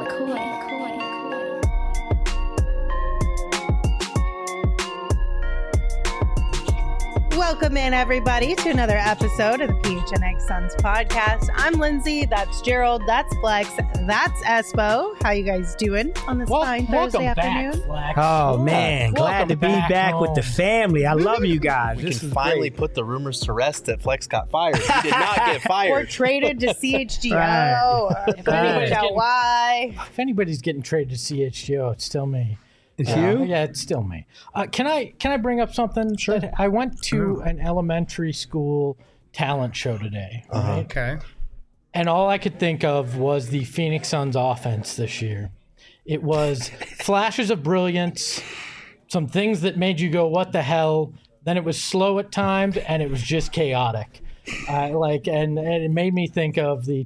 Welcome in, everybody, to another episode of the PHNX Suns podcast. I'm Lindsay. That's Gerald. That's Flex. That's Espo. How you guys doing on this fine Thursday afternoon? Back, oh, man. Glad to be back with the family. I love you guys. We can finally put the rumors to rest that Flex got fired. He did not get fired. Or traded to CHGO. If anybody's getting traded to CHGO, it's still me. It's you? Yeah, it's still me. Can I bring up something? Sure. I went to an elementary school talent show today. Right? Okay. And all I could think of was the Phoenix Suns offense this year. It was flashes of brilliance, some things that made you go, what the hell? Then it was slow at times, and it was just chaotic. And it made me think of the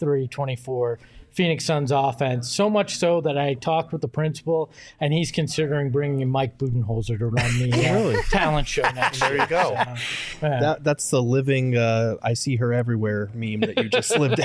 23-24 Phoenix Suns offense, so much so that I talked with the principal, and he's considering bringing in Mike Budenholzer to run the talent show next year. There you go. So, that's the living I see her everywhere meme that you just lived out.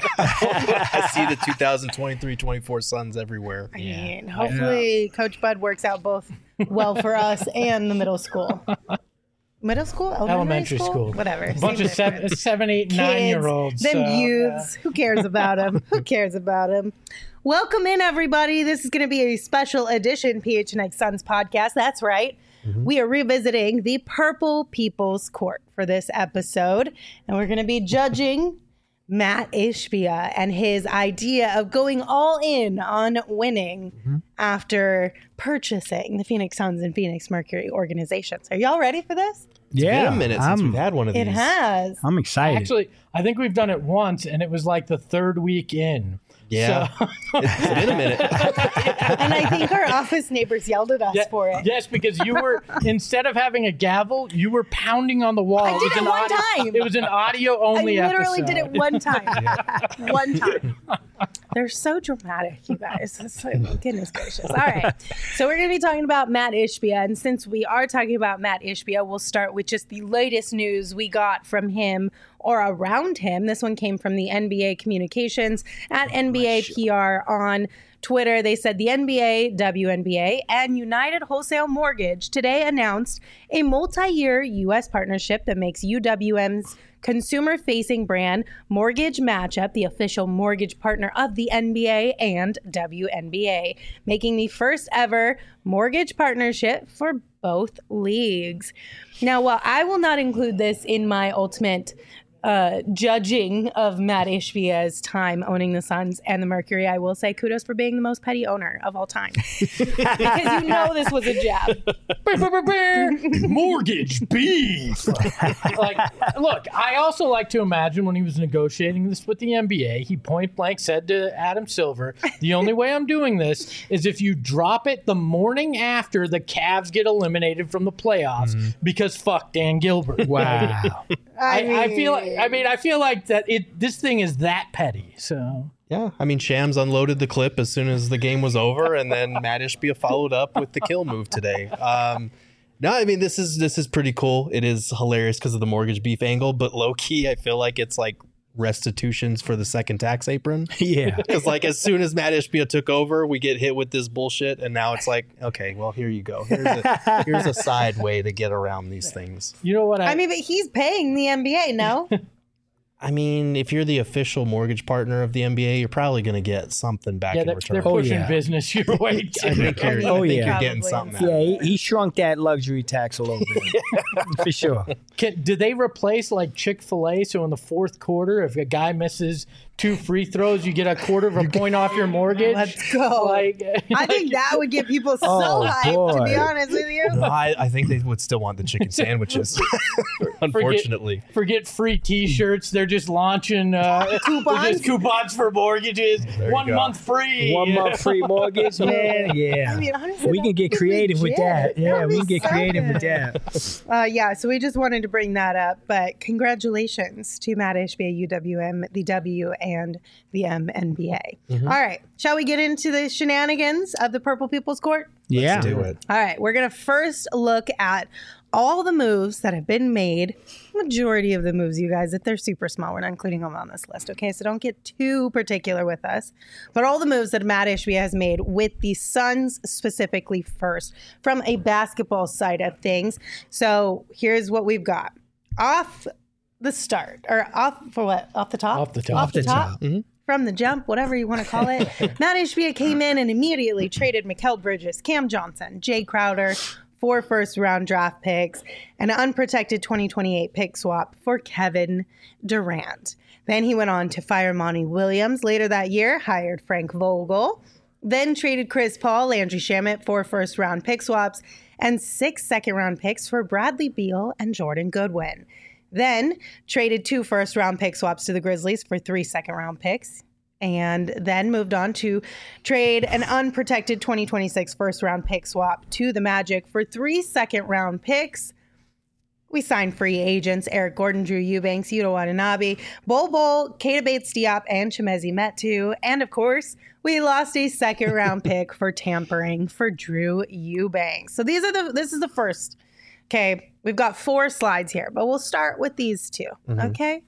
I see the 2023-24 Suns everywhere. I mean, hopefully Coach Bud works out both well for us and the middle school. Middle school? Elementary school? Whatever. A bunch of 7, 8, 9-year-olds. Them youths. Who cares about them? Who cares about them? Welcome in, everybody. This is going to be a special edition PHNX Suns podcast. That's right. Mm-hmm. We are revisiting the Purple People's Court for this episode. And we're going to be judging Matt Ishbia and his idea of going all in on winning after purchasing the Phoenix Suns and Phoenix Mercury organizations. Are y'all ready for this? It's been a minute since we've had one of these. It has. I'm excited. Actually, I think we've done it once, and it was like the third week in. Yeah. So. It's been a minute. And I think our office neighbors yelled at us for it. Yes, because you were, instead of having a gavel, you were pounding on the wall. I did it one time. It was an audio-only episode. I literally did it one time. One time. They're so dramatic, you guys. It's like, goodness gracious. All right. So we're going to be talking about Matt Ishbia. And since we are talking about Matt Ishbia, we'll start with just the latest news we got from him or around him. This one came from the NBA Communications at NBA PR on Twitter. They said the NBA, WNBA, and United Wholesale Mortgage today announced a multi-year U.S. partnership that makes UWM's consumer-facing brand Mortgage Matchup the official mortgage partner of the NBA and WNBA, making the first ever mortgage partnership for both leagues. Now, while I will not include this in my ultimate judging of Matt Ishbia's time owning the Suns and the Mercury, I will say kudos for being the most petty owner of all time. Because you know this was a jab. Mortgage beef. Look, I also like to imagine when he was negotiating this with the NBA, he point blank said to Adam Silver, the only way I'm doing this is if you drop it the morning after the Cavs get eliminated from the playoffs because fuck Dan Gilbert. Wow. I feel like that this thing is that petty. So yeah, I mean, Shams unloaded the clip as soon as the game was over, and then Matt Ishbia followed up with the kill move today. No, I mean, this is pretty cool. It is hilarious because of the mortgage beef angle, but low key, I feel like it's like restitutions for the second tax apron. Yeah. Because like as soon as Matt Ishbia took over, we get hit with this bullshit, and now it's like, okay, well, here you go. Here's a side way to get around these things. You know what? I mean, but he's paying the NBA, no? I mean, if you're the official mortgage partner of the NBA, you're probably going to get something back in return. They're pushing business your way too. I think you're getting something. Yeah, he shrunk that luxury tax a little bit. For sure. Did they replace like Chick-fil-A? So in the fourth quarter, if a guy misses 2 free throws, you get a quarter of a point off your mortgage? Let's go. I think that would get people so hyped, to be honest with you. No, I think they would still want the chicken sandwiches, unfortunately. Forget free T-shirts. They're just launching coupons for mortgages. 1 month free. 1 month free mortgage, man. Yeah. I mean, honestly, we can get creative with that. Yeah, we can get creative with that. Yeah, so we just wanted to bring that up. But congratulations to Matt Ishbia, UWM, the W, and the MNBA. All right. Shall we get into the shenanigans of the Purple People's Court? Yeah. Let's do it. All right. We're going to first look at all the moves that have been made, majority of the moves, you guys, if they're super small, we're not including them on this list, okay? So don't get too particular with us. But all the moves that Matt Ishbia has made with the Suns specifically first, from a basketball side of things. So here's what we've got. Off the start, or off for what? Off the top? Off the top. Off the top. Mm-hmm. From the jump, whatever you want to call it. Matt Ishbia came in and immediately traded Mikal Bridges, Cam Johnson, Jay Crowder, 4 first-round draft picks, and an unprotected 2028 pick swap for Kevin Durant. Then he went on to fire Monty Williams. Later that year, hired Frank Vogel. Then traded Chris Paul, Landry Shamet, 4 first-round pick swaps, and 6 second-round picks for Bradley Beal and Jordan Goodwin. Then traded 2 first-round pick swaps to the Grizzlies for 3 second-round picks. And then moved on to trade an unprotected 2026 first-round pick swap to the Magic for 3 second-round picks. We signed free agents Eric Gordon, Drew Eubanks, Yuta Watanabe, Bol Bol, Keita Bates-Diop, and Chimezie Metu. And of course, we lost a second-round pick for tampering for Drew Eubanks. So this is the first. Okay, we've got 4 slides here, but we'll start with these 2. Okay.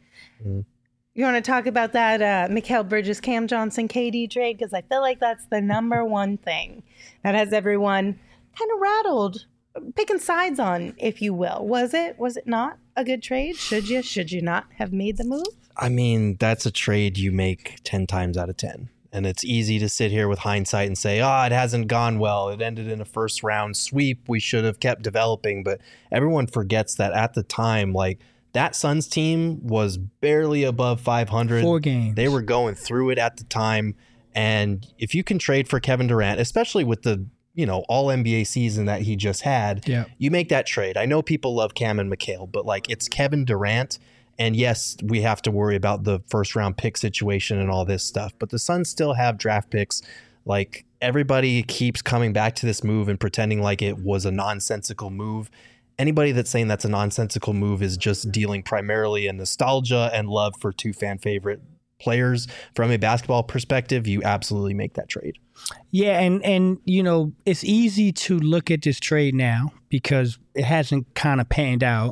You want to talk about that Mikal Bridges, Cam Johnson, KD trade? Because I feel like that's the number one thing that has everyone kind of rattled, picking sides on, if you will. Was it not a good trade? Should you not have made the move? I mean, that's a trade you make 10 times out of 10. And it's easy to sit here with hindsight and say, it hasn't gone well. It ended in a first round sweep. We should have kept developing. But everyone forgets that at the time, like, that Suns team was barely above 500. 4 games. They were going through it at the time. And if you can trade for Kevin Durant, especially with the all NBA season that he just had, you make that trade. I know people love Cam and Mikal, but like, it's Kevin Durant. And yes, we have to worry about the first round pick situation and all this stuff. But the Suns still have draft picks. Like, everybody keeps coming back to this move and pretending like it was a nonsensical move. Anybody that's saying that's a nonsensical move is just dealing primarily in nostalgia and love for 2 fan favorite players. From a basketball perspective, you absolutely make that trade. Yeah, and it's easy to look at this trade now because it hasn't kind of panned out.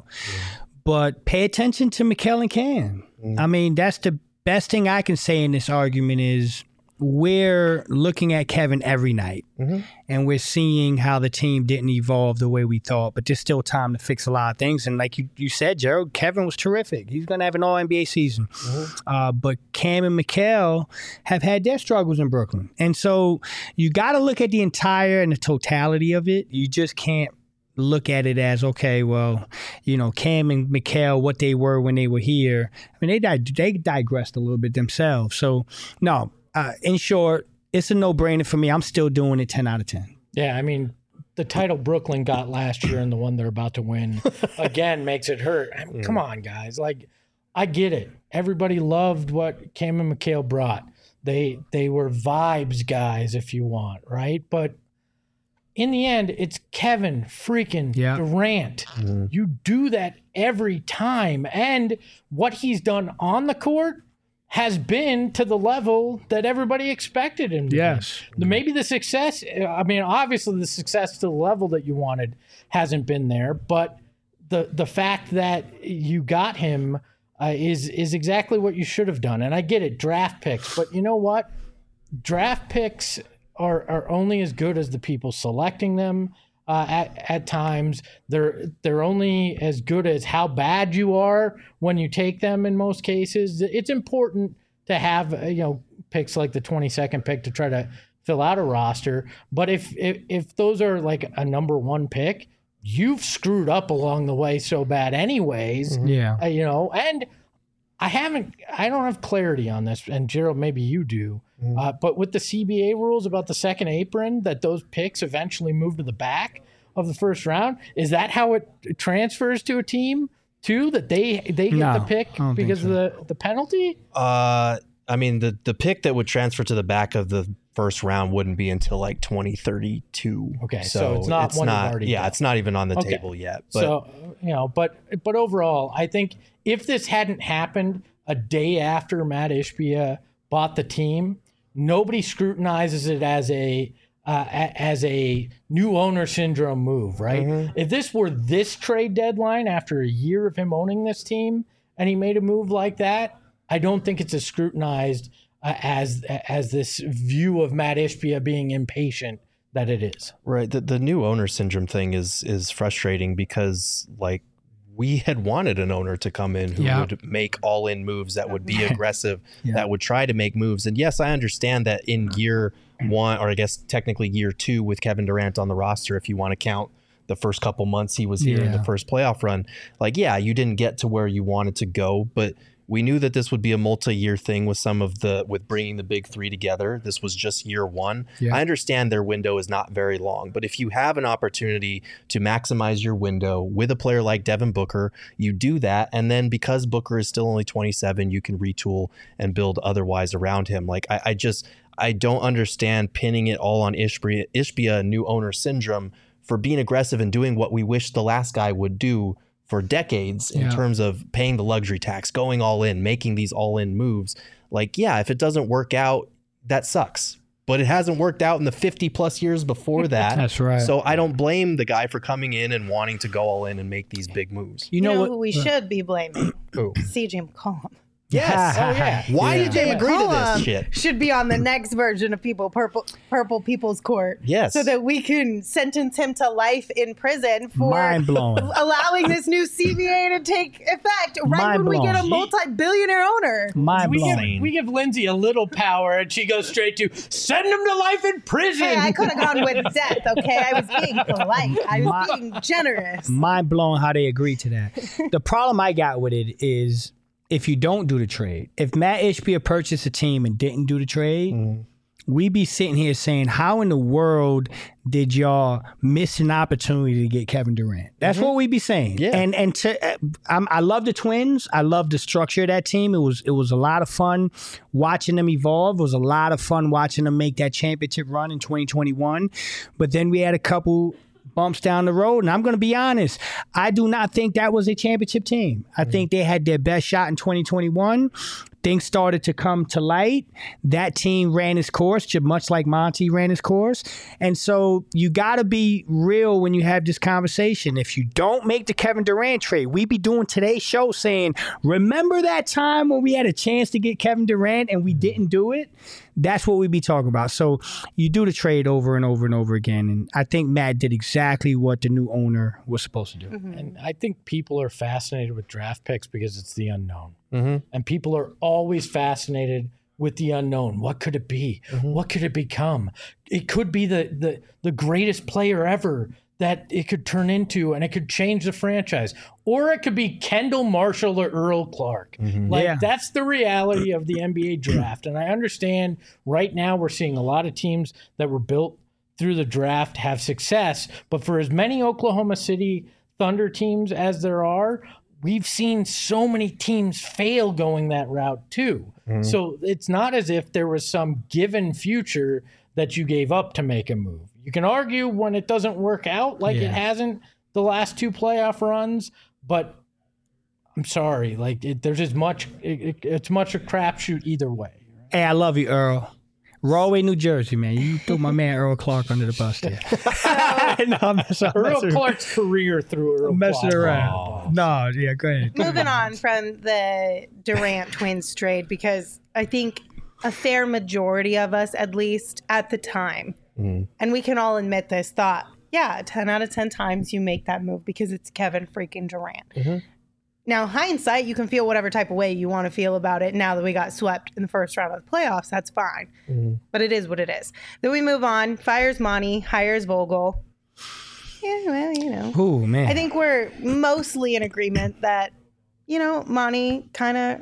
But pay attention to Mikal and Cam. I mean, that's the best thing I can say in this argument is we're looking at Kevin every night, and we're seeing how the team didn't evolve the way we thought, but there's still time to fix a lot of things. And like you said, Gerald, Kevin was terrific. He's going to have an all-NBA season. But Cam and Mikal have had their struggles in Brooklyn. And so you got to look at the entire and the totality of it. You just can't look at it as, okay, well, Cam and Mikal, what they were when they were here. I mean, they digressed a little bit themselves. So, no, in short, it's a no-brainer for me. I'm still doing it 10 out of 10. Yeah, I mean, the title Brooklyn got last year and the one they're about to win again makes it hurt. I mean, come on, guys. Like, I get it. Everybody loved what Cam and Mikal brought. They were vibes guys, if you want, right? But in the end, it's Kevin freaking Durant. You do that every time. And what he's done on the court has been to the level that everybody expected him to be. Maybe the success, obviously the success to the level that you wanted hasn't been there, but the fact that you got him is exactly what you should have done. And I get it, draft picks, but you know what? Draft picks are only as good as the people selecting them. At times, they're only as good as how bad you are when you take them. In most cases, it's important to have picks like the 22nd pick to try to fill out a roster. But if those are like a number 1 pick, you've screwed up along the way so bad, anyways. And I don't have clarity on this, and Gerald, maybe you do. But with the CBA rules about the second apron, that those picks eventually move to the back of the first round, is that how it transfers to a team too? That they get the pick because of the penalty? I mean, the pick that would transfer to the back of the first round wouldn't be until like 2032. Okay, so it's not already done. It's not even on the table yet. But. So but overall, I think if this hadn't happened a day after Matt Ishbia bought the team, nobody scrutinizes it as a as a new owner syndrome move, right? If this were this trade deadline after a year of him owning this team and he made a move like that, I don't think it's as scrutinized as this view of Matt Ishbia being impatient that it is. Right. The new owner syndrome thing is frustrating because like we had wanted an owner to come in who would make all-in moves that would be aggressive, that would try to make moves. And yes, I understand that in year one, or I guess technically year two with Kevin Durant on the roster, if you want to count the first couple months he was here in the first playoff run, like, yeah, you didn't get to where you wanted to go, but we knew that this would be a multi-year thing with bringing the big three together. This was just year one. I understand their window is not very long, but if you have an opportunity to maximize your window with a player like Devin Booker, you do that. And then because Booker is still only 27, you can retool and build otherwise around him. Like I don't understand pinning it all on Ishbia new owner syndrome for being aggressive and doing what we wish the last guy would do for decades in terms of paying the luxury tax, going all in, making these all in moves. Like, yeah, if it doesn't work out, that sucks. But it hasn't worked out in the 50 plus years before that. That's right. So I don't blame the guy for coming in and wanting to go all in and make these big moves. You know who we should be blaming? CJ McCollum. Yes. Why did they agree to this shit? Should be on the next version of Purple People's Court. Yes. So that we can sentence him to life in prison for mind-blowing, allowing this new CBA to take effect right when we get a multi-billionaire owner. Mind-blowing. We give Lindsay a little power and she goes straight to send him to life in prison. Hey, I could have gone with death, okay? I was being polite. I was being generous. Mind-blowing how they agreed to that. The problem I got with it is if you don't do the trade, if Matt Ishbia purchased a team and didn't do the trade, we'd be sitting here saying, how in the world did y'all miss an opportunity to get Kevin Durant? That's what we'd be saying. Yeah. I love the Twins. I love the structure of that team. It was a lot of fun watching them evolve. It was a lot of fun watching them make that championship run in 2021. But then we had a couple bumps down the road. And I'm going to be honest, I do not think that was a championship team. I think they had their best shot in 2021. Things started to come to light. That team ran its course, just much like Monty ran his course. And so you got to be real when you have this conversation. If you don't make the Kevin Durant trade, we be doing today's show saying, remember that time when we had a chance to get Kevin Durant and we didn't do it? That's what we be talking about. So you do the trade over and over and over again. And I think Matt did exactly what the new owner was supposed to do. And I think people are fascinated with draft picks because it's the unknown. And people are always fascinated with the unknown. What could it be? What could it become? It could be the greatest player ever that it could turn into, and it could change the franchise. Or it could be Kendall Marshall or Earl Clark. That's the reality of the NBA draft. And I understand right now we're seeing a lot of teams that were built through the draft have success. But for as many Oklahoma City Thunder teams as there are, we've seen so many teams fail going that route too. So it's not as if there was some given future that you gave up to make a move. You can argue when it doesn't work out like it hasn't the last two playoff runs, but I'm sorry, like there's as much, it's much a crapshoot either way. Hey, I love you, Earl. Rahway, New Jersey, man. You threw my man Earl Clark under the bus there. No, I'm Earl Clark's career through Earl messing Clark. around. No, yeah, go ahead. Moving on from the Durant Twins trade, because I think a fair majority of us, at least at the time, and we can all admit this, thought, yeah, 10 out of 10 times you make that move because it's Kevin freaking Durant. Now, hindsight, you can feel whatever type of way you want to feel about it now that we got swept in the first round of the playoffs. That's fine. But it is what it is. Then we move on. Fires Monty, hires Vogel. Yeah, well, you know. Oh, man. I think we're mostly in agreement that, you know, Monty kind of,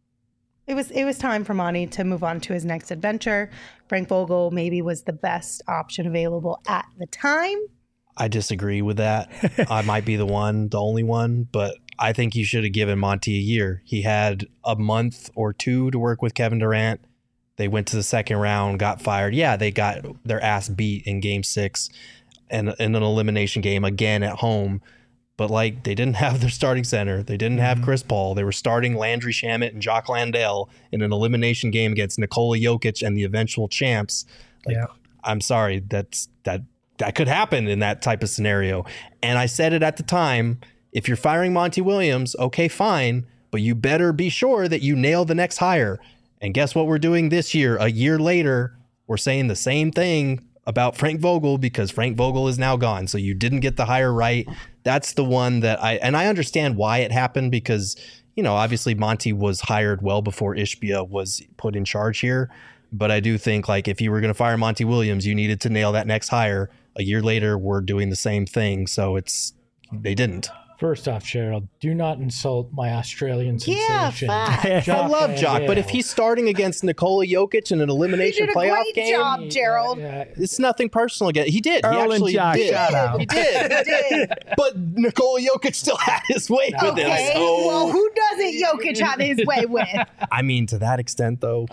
it was time for Monty to move on to his next adventure. Frank Vogel maybe was the best option available at the time. I disagree with that. I might be the only one, but I think you should have given Monty a year. He had a month or two to work with Kevin Durant. They went to the second round, got fired. Yeah, they got their ass beat in game 6 and in an elimination game again at home. But like, they didn't have their starting center. They didn't have Chris Paul. They were starting Landry Shamet and Jock Landale in an elimination game against Nikola Jokic and the eventual champs. Like, I'm sorry, that could happen in that type of scenario. And I said it at the time, if you're firing Monty Williams, okay, fine, but you better be sure that you nail the next hire. And guess what we're doing this year? A year later, we're saying the same thing about Frank Vogel because Frank Vogel is now gone. So you didn't get the hire right. That's the one that I understand why it happened because, obviously Monty was hired well before Ishbia was put in charge here. But I do think like if you were going to fire Monty Williams, you needed to nail that next hire. A year later, we're doing the same thing. So they didn't. First off, Gerald, do not insult my Australian sensation. Yeah, I love Jock, but if he's starting against Nikola Jokic in an elimination playoff game, job, Gerald. It's nothing personal again. He did. Earl He actually and Jock, did. shout out. He did. But Nikola Jokic still had his way with him. Okay, So, well, who doesn't Jokic have his way with? I mean, to that extent, though.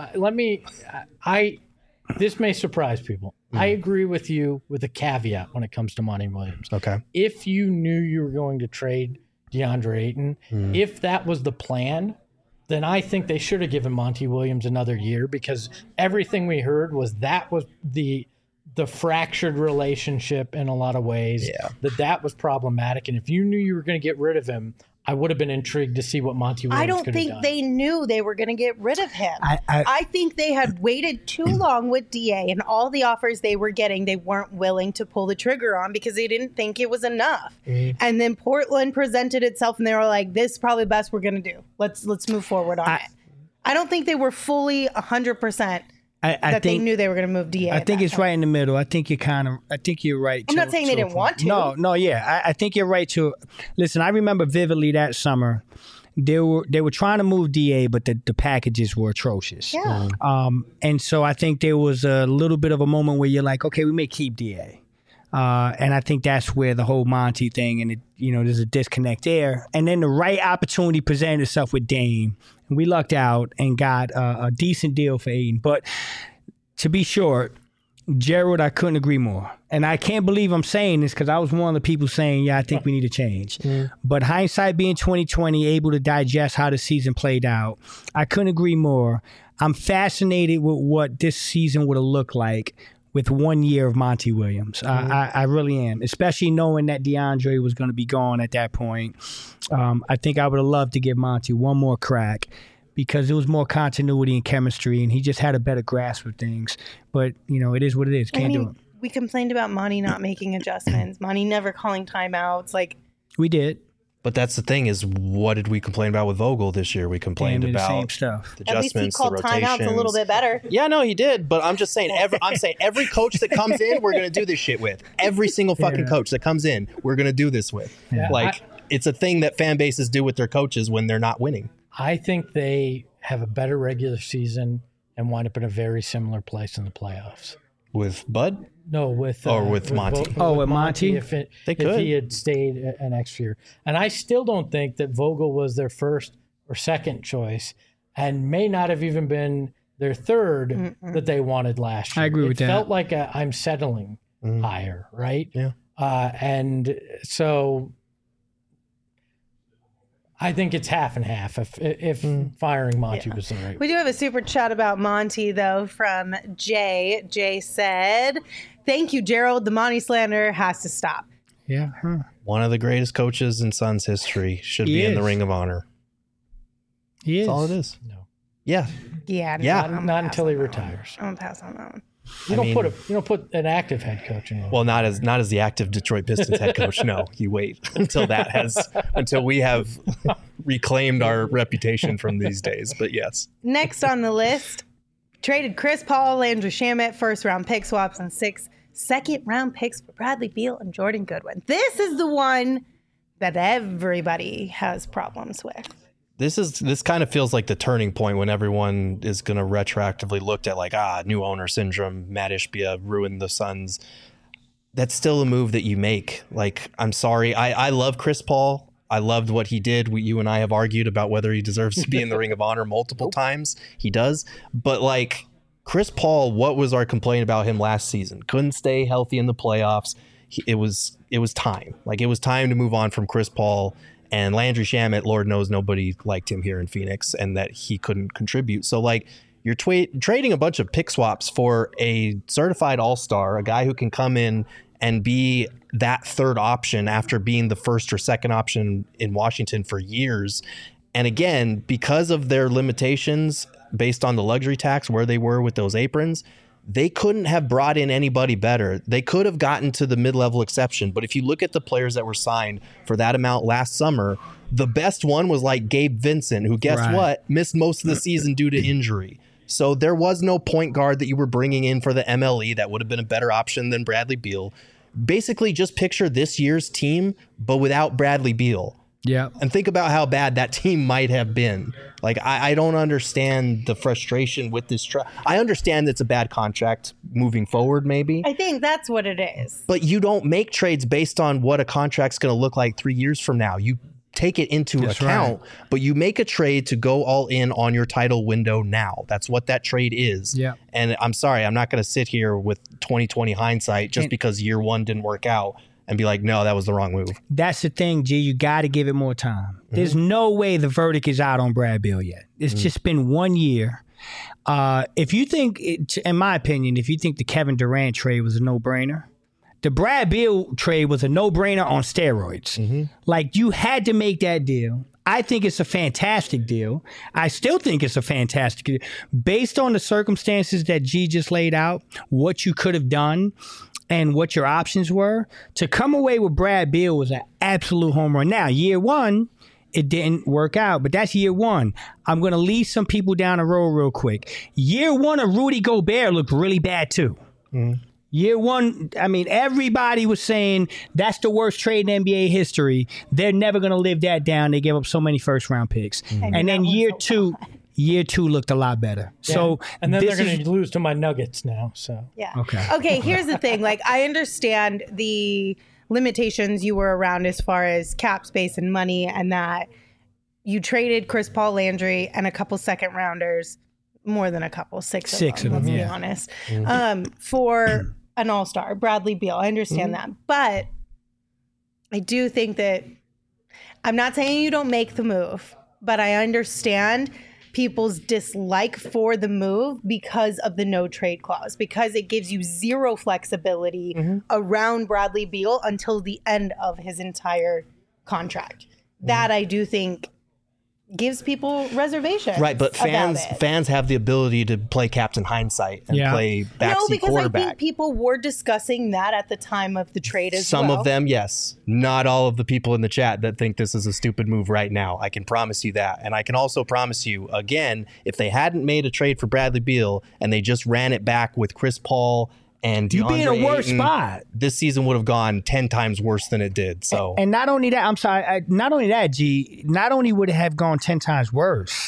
This may surprise people. I agree with you with a caveat when it comes to Monty Williams. Okay. If you knew you were going to trade DeAndre Ayton, if that was the plan, then I think they should have given Monty Williams another year because everything we heard was the fractured relationship in a lot of ways. Yeah. That was problematic. And if you knew you were going to get rid of him, I would have been intrigued to see what Monty Williams I don't could have think done. they knew they were going to get rid of him. I think they had waited too long with DA and all the offers they were getting, they weren't willing to pull the trigger on because they didn't think it was enough. And then Portland presented itself and they were like, this is probably the best we're going to do. Let's move forward on it. I don't think they were fully 100% they knew they were going to move DA. I think it's right in the middle. I think you're right. I'm not saying they didn't want to. No, yeah. I think you're right too. Listen, I remember vividly that summer. They were trying to move DA, but the packages were atrocious. Yeah. And so I think there was a little bit of a moment where you're like, okay, we may keep DA. And I think that's where the whole Monty thing and there's a disconnect there. And then the right opportunity presented itself with Dame. And we lucked out and got a decent deal for Ayton. But to be short, Gerald, I couldn't agree more. And I can't believe I'm saying this because I was one of the people saying, I think we need to change. But hindsight being 2020, able to digest how the season played out, I couldn't agree more. I'm fascinated with what this season would have looked like with 1 year of Monty Williams. I really am, especially knowing that DeAndre was going to be gone at that point. I think I would have loved to give Monty one more crack because there was more continuity and chemistry, and he just had a better grasp of things. But, it is what it is. Can't do it. We complained about Monty not making adjustments, Monty never calling timeouts. We did. But that's the thing is, what did we complain about with Vogel this year? We complained about the same stuff. The At least he adjustments, called the rotations. timeouts a little bit better. Yeah, no, he did. But I'm just saying, every coach that comes in, we're going to do this shit with. Every single fucking coach that comes in, we're going to do this with. Yeah. It's a thing that fan bases do with their coaches when they're not winning. I think they have a better regular season and wind up in a very similar place in the playoffs. With Bud? No, with Monty. With Monty? If could. he had stayed an extra year. And I still don't think that Vogel was their first or second choice and may not have even been their third that they wanted last year. I agree with that. It felt like I'm settling higher, right? Yeah. And so I think it's half and half if firing Monty was the right. We do have a super chat about Monty, though, from Jay. Jay said, thank you, Gerald. The Monty slander has to stop. Yeah. One of the greatest coaches in Suns history should He be in the is. Ring of Honor. He is. That's all it is. No. Yeah. Yeah. Yeah. Not until he retires. I'm going to pass on that one. You don't put an active head coach in. Well, not as the active Detroit Pistons head coach. No, you wait until we have reclaimed our reputation from these days. But yes. Next on the list, traded Chris Paul, Landry Shamet, first round pick swaps, and 6 second-round picks for Bradley Beal and Jordan Goodwin. This is the one that everybody has problems with. This kind of feels like the turning point when everyone is going to retroactively look at new owner syndrome. Matt Ishbia ruined the Suns. That's still a move that you make. I'm sorry. I love Chris Paul. I loved what he did. You and I have argued about whether he deserves to be in the Ring of Honor multiple times. He does. But Chris Paul, what was our complaint about him last season? Couldn't stay healthy in the playoffs. It was time. It was time to move on from Chris Paul. And Landry Shamet, Lord knows nobody liked him here in Phoenix and that he couldn't contribute. So You're trading a bunch of pick swaps for a certified all-star, a guy who can come in and be that third option after being the first or second option in Washington for years. And again, because of their limitations based on the luxury tax, where they were with those aprons, they couldn't have brought in anybody better. They could have gotten to the mid-level exception. But if you look at the players that were signed for that amount last summer, the best one was like Gabe Vincent, who guess what? Missed most of the season due to injury. So there was no point guard that you were bringing in for the MLE that would have been a better option than Bradley Beal. Basically, just picture this year's team, but without Bradley Beal. Yeah. And think about how bad that team might have been. Like, I don't understand the frustration with this. I understand it's a bad contract moving forward, maybe. I think that's what it is. But you don't make trades based on what a contract's going to look like 3 years from now. You take it into account, but you make a trade to go all in on your title window now. That's what that trade is. Yeah. And I'm sorry, I'm not going to sit here with 2020 hindsight just because year one didn't work out and be like, no, that was the wrong move. That's the thing, G. You got to give it more time. There's no way the verdict is out on Brad Beal yet. It's just been 1 year. If you think, in my opinion, if you think the Kevin Durant trade was a no-brainer, the Brad Beal trade was a no-brainer on steroids. Like, you had to make that deal. I think it's a fantastic deal. I still think it's a fantastic deal. Based on the circumstances that G just laid out, what you could have done and what your options were, to come away with Brad Beal was an absolute home run. Now, year one, it didn't work out, but that's year one. I'm going to lead some people down the road real quick. Year one of Rudy Gobert looked really bad, too. Year one, I mean, everybody was saying that's the worst trade in NBA history. They're never going to live that down. They gave up so many first-round picks. And then year two looked a lot better. Yeah. So, and then they're going to lose to my Nuggets now. So Okay, here's the thing. Like, I understand the limitations you were around as far as cap space and money, and that you traded Chris Paul, Landry, and a couple second rounders, more than a couple, six of them, let's be honest, for an all-star, Bradley Beal. I understand that. But I do think that, I'm not saying you don't make the move, but I understand people's dislike for the move because of the no trade clause, because it gives you zero flexibility around Bradley Beal until the end of his entire contract. That I do think gives people reservations. Right, but fans have the ability to play Captain Hindsight and play backseat quarterback. I think people were discussing that at the time of the trade as well. Some of them, yes. Not all of the people in the chat that think this is a stupid move right now. I can promise you that. And I can also promise you, again, if they hadn't made a trade for Bradley Beal and they just ran it back with Chris Paul and DeAndre you'd be in a worse Ayton, spot. This season would have gone 10 times worse than it did. So, and not only that, not only that, G, not only would it have gone 10 times worse,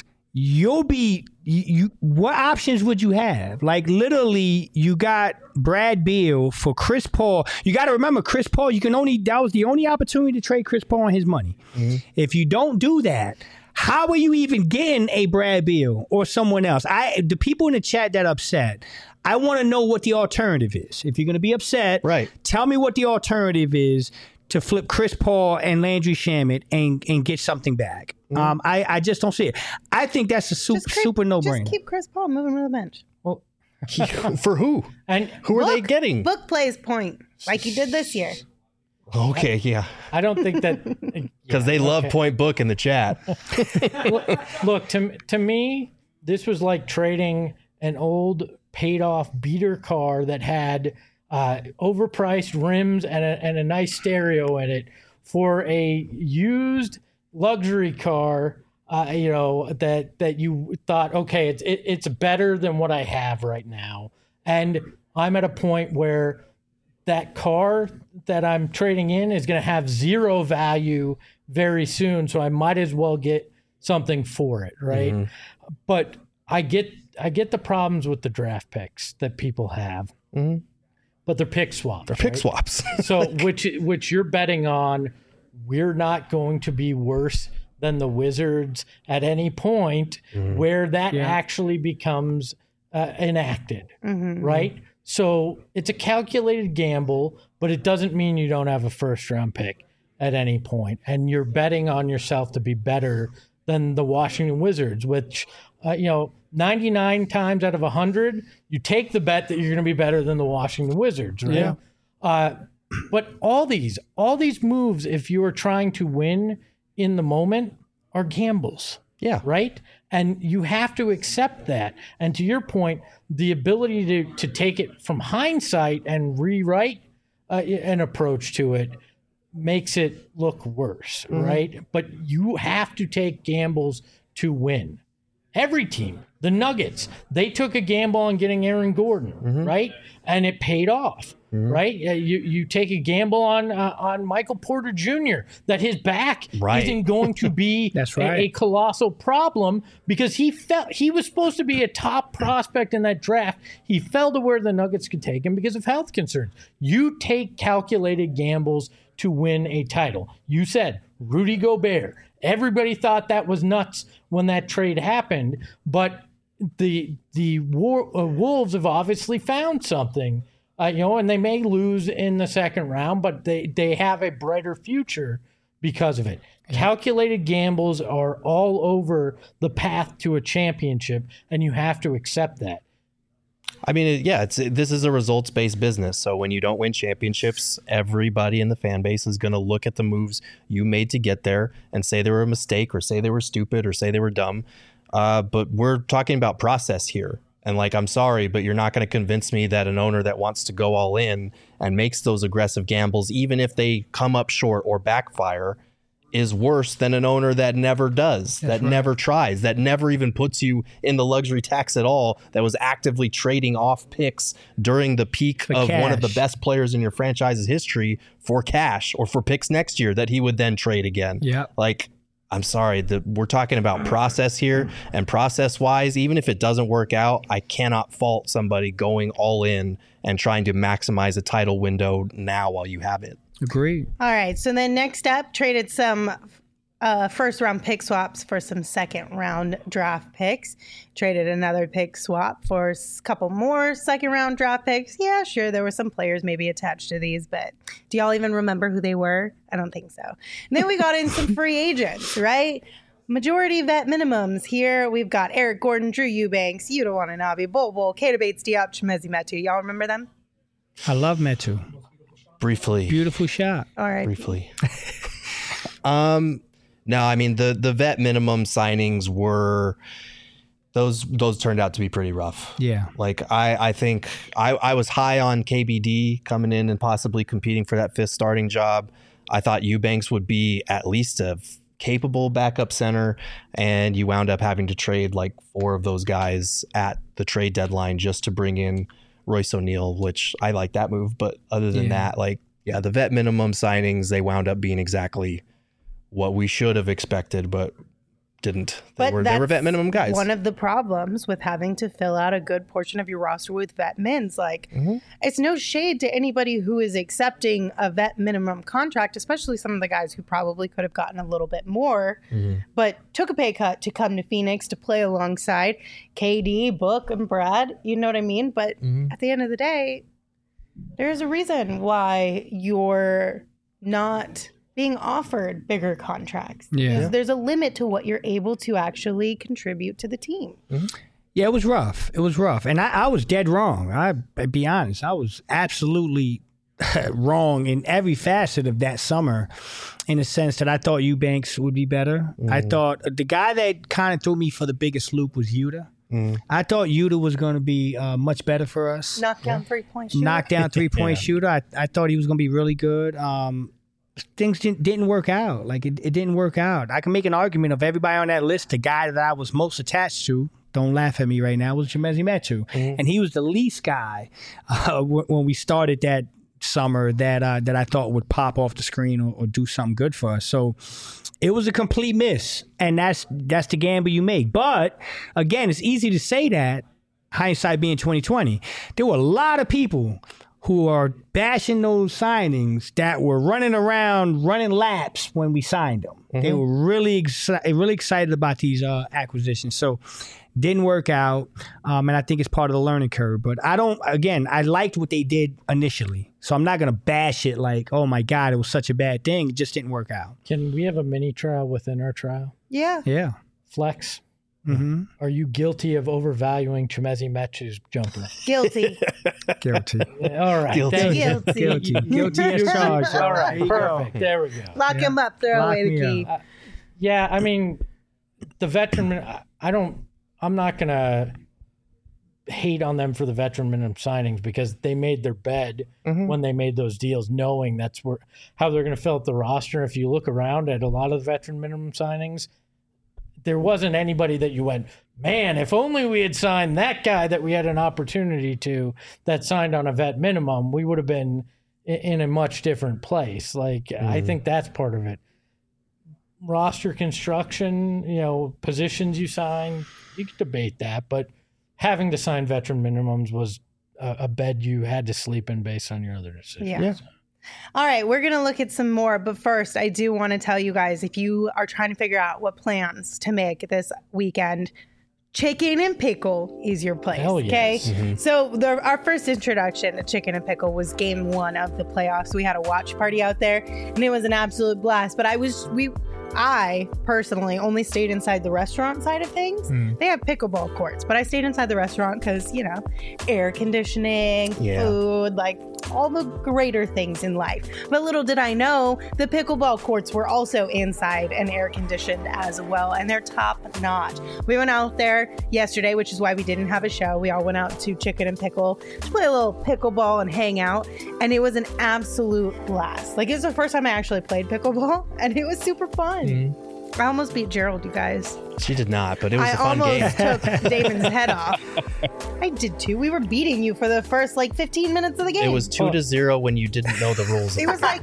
what options would you have? Like, literally, you got Brad Beal for Chris Paul. You got to remember, Chris Paul, that was the only opportunity to trade Chris Paul on his money. If you don't do that, how are you even getting a Brad Beal or someone else? The people in the chat that are upset, I want to know what the alternative is. If you're going to be upset, tell me what the alternative is to flip Chris Paul and Landry Shamet and get something back. I just don't see it. I think that's a super no-brainer. Just keep Chris Paul moving to the bench. Well, for who? And who are they getting? Book plays point like he did this year. Okay, yeah. I don't think that because they love Point Book in the chat. Look, to me, this was like trading an old paid-off beater car that had overpriced rims and a nice stereo in it for a used luxury car. That you thought, okay, it's better than what I have right now, and I'm at a point where that car that I'm trading in is going to have zero value very soon, so I might as well get something for it, right? But I get the problems with the draft picks that people have, but they're pick swaps. They're pick swaps. So which you're betting on, we're not going to be worse than the Wizards at any point where that actually becomes enacted, right? So it's a calculated gamble, but it doesn't mean you don't have a first-round pick at any point, and you're betting on yourself to be better than the Washington Wizards, which 99 times out of 100, you take the bet that you're going to be better than the Washington Wizards, right? Yeah. But all these moves, if you are trying to win in the moment, are gambles. Yeah. Right? And you have to accept that. And to your point, the ability to take it from hindsight and rewrite an approach to it makes it look worse, right? But you have to take gambles to win. Every team, the Nuggets, they took a gamble on getting Aaron Gordon, right? And it paid off, right? You take a gamble on Michael Porter Jr. that his back isn't going to be That's right. a colossal problem because he was supposed to be a top prospect in that draft. He fell to where the Nuggets could take him because of health concerns. You take calculated gambles to win a title. You said Rudy Gobert. Everybody thought that was nuts when that trade happened, but the Wolves have obviously found something, and they may lose in the second round, but they have a brighter future because of it. Yeah. Calculated gambles are all over the path to a championship, and you have to accept that. I mean, this is a results-based business. So when you don't win championships, everybody in the fan base is going to look at the moves you made to get there and say they were a mistake or say they were stupid or say they were dumb. But we're talking about process here. And I'm sorry, but you're not going to convince me that an owner that wants to go all in and makes those aggressive gambles, even if they come up short or backfire, is worse than an owner that never does, never tries, that never even puts you in the luxury tax at all, that was actively trading off picks during the peak of one of the best players in your franchise's history for cash or for picks next year that he would then trade again. Yeah. I'm sorry, we're talking about process here, and process-wise, even if it doesn't work out, I cannot fault somebody going all in and trying to maximize a title window now while you have it. Agreed. All right. So then next up, traded some first round pick swaps for some second round draft picks. Traded another pick swap for a couple more second round draft picks. Yeah, sure. There were some players maybe attached to these, but do y'all even remember who they were? I don't think so. And then we got in some free agents, right? Majority vet minimums. Here we've got Eric Gordon, Drew Eubanks, Yuta Watanabe, Bol Bol, Keita Bates-Diop, Chimezie Metu. Y'all remember them? I love Metu. Briefly. Beautiful shot. All right. Briefly. No, I mean, the vet minimum signings were, those turned out to be pretty rough. Yeah. I think I was high on KBD coming in and possibly competing for that fifth starting job. I thought Eubanks would be at least a capable backup center, and you wound up having to trade 4 of those guys at the trade deadline just to bring in Royce O'Neal, which I like that move. But other than that, the vet minimum signings, they wound up being exactly what we should have expected, but didn't. They were vet minimum guys. One of the problems with having to fill out a good portion of your roster with vet mins, it's no shade to anybody who is accepting a vet minimum contract, especially some of the guys who probably could have gotten a little bit more, but took a pay cut to come to Phoenix to play alongside KD, Book, and Brad. You know what I mean? But at the end of the day, there's a reason why you're not being offered bigger contracts. Yeah. There's a limit to what you're able to actually contribute to the team. Yeah, it was rough. And I was dead wrong. I'd be honest. I was absolutely wrong in every facet of that summer, in the sense that I thought Eubanks would be better. I thought the guy that kind of threw me for the biggest loop was Yuta. I thought Yuta was going to be much better for us. Knockdown three-point shooter. Knockdown three-point shooter. I thought he was going to be really good. Things didn't work out. It didn't work out. I can make an argument of everybody on that list. The guy that I was most attached to, don't laugh at me right now, was Chimezie Metu. And he was the least guy when we started that summer that I thought would pop off the screen or do something good for us. So it was a complete miss. And that's the gamble you make. But again, it's easy to say that, hindsight being 2020. There were a lot of people who are bashing those signings that were running laps when we signed them. They were really excited about these acquisitions. So didn't work out, and I think it's part of the learning curve. But I liked what they did initially. So I'm not going to bash it oh my God, it was such a bad thing. It just didn't work out. Can we have a mini trial within our trial? Yeah. Yeah. Flex. Are you guilty of overvaluing Chimezie Metu's jumper? Guilty. Guilty. All right. Guilty. Thank you. Guilty. Guilty as charged. All right. There you go. Perfect. There we go. Lock him up. Throw Lock away the me key. up. Yeah, I mean, the veteran. I'm not gonna hate on them for the veteran minimum signings because they made their bed when they made those deals, knowing that's how they're going to fill up the roster. If you look around at a lot of the veteran minimum signings, there wasn't anybody that you went, man, if only we had signed that guy that we had an opportunity to that signed on a vet minimum, we would have been in a much different place. Like, I think that's part of it. Roster construction, positions you sign, you could debate that, but having to sign veteran minimums was a bed you had to sleep in based on your other decisions. Yeah. All right, we're going to look at some more. But first, I do want to tell you guys, if you are trying to figure out what plans to make this weekend, Chicken and Pickle is your place. Hell yes. Okay. So our first introduction to Chicken and Pickle was game 1 of the playoffs. We had a watch party out there and it was an absolute blast. But I personally only stayed inside the restaurant side of things. They have pickleball courts, but I stayed inside the restaurant because, air conditioning, food, like all the greater things in life. But little did I know, the pickleball courts were also inside and air conditioned as well, and they're top notch. We went out there yesterday, which is why we didn't have a show. We all went out to Chicken and Pickle to play a little pickleball and hang out, and it was an absolute blast. Like, it was the first time I actually played pickleball, and it was super fun. I almost beat Gerald, you guys. She did not, but it was a fun game. I almost took Damon's head off. I did too. We were beating you for the first 15 minutes of the game. It was 2-0 when you didn't know the rules. It was 5-0,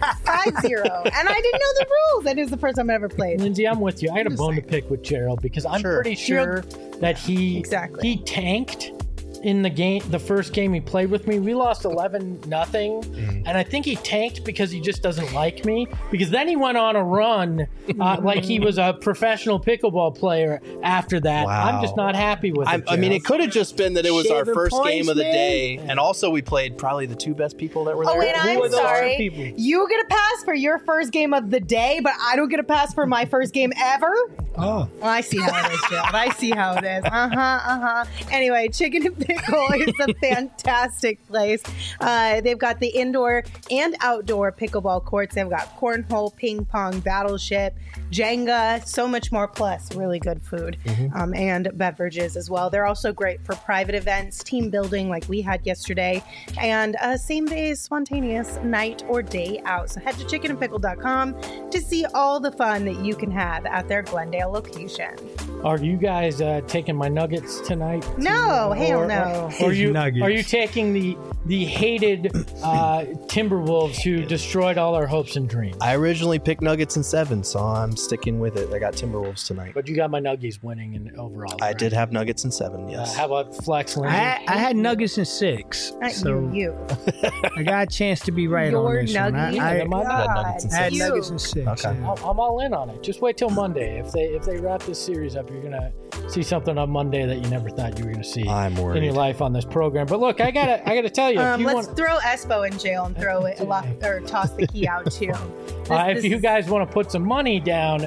and I didn't know the rules. And it was the first time I ever played. Lindsay, I'm with you. I had a bone to pick with Gerald because I'm pretty sure that he tanked in the first game he played with me. We lost 11-0, and I think he tanked because he just doesn't like me, because then he went on a run like he was a professional pickleball player after that. Wow. I'm just not happy with it. I mean, it could have just been that it was our Shaving first points, game of the man. day, and also we played probably the 2 best people that were there. Oh, wait, I'm sorry. people? You get a pass for your first game of the day, but I don't get a pass for my first game ever? Oh. Well, I see how it is, Gerald. I see how it is. Anyway, Chicken and Pickle is a fantastic place. They've got the indoor and outdoor pickleball courts. They've got cornhole, ping pong, battleship, Jenga, so much more, plus really good food and beverages as well. They're also great for private events, team building like we had yesterday, and same day spontaneous night or day out. So head to chickenandpickle.com to see all the fun that you can have at their Glendale location. Are you guys taking my Nuggets tonight? No, hell no. Are you Nuggets. taking the hated Timberwolves who destroyed all our hopes and dreams? I originally picked Nuggets in 7, so I'm sticking with it. I got Timberwolves tonight. But you got my Nuggies winning in overall. I right? did have Nuggets in 7, yes. How about Flex Lindsay? I had Nuggets in 6, Not so you. I got a chance to be right Your on this one. Nuggies? I had Nuggets in had 6. Nuggets in 6. Okay. yeah. I'm all in on it. Just wait till Monday. If they wrap this series up, you're gonna see something on Monday that you never thought you were gonna see I'm worried. in your life on this program. But look, I gotta tell you, if you Let's want, throw Espo in jail and throw it or toss the key out too. if you guys want to put some money down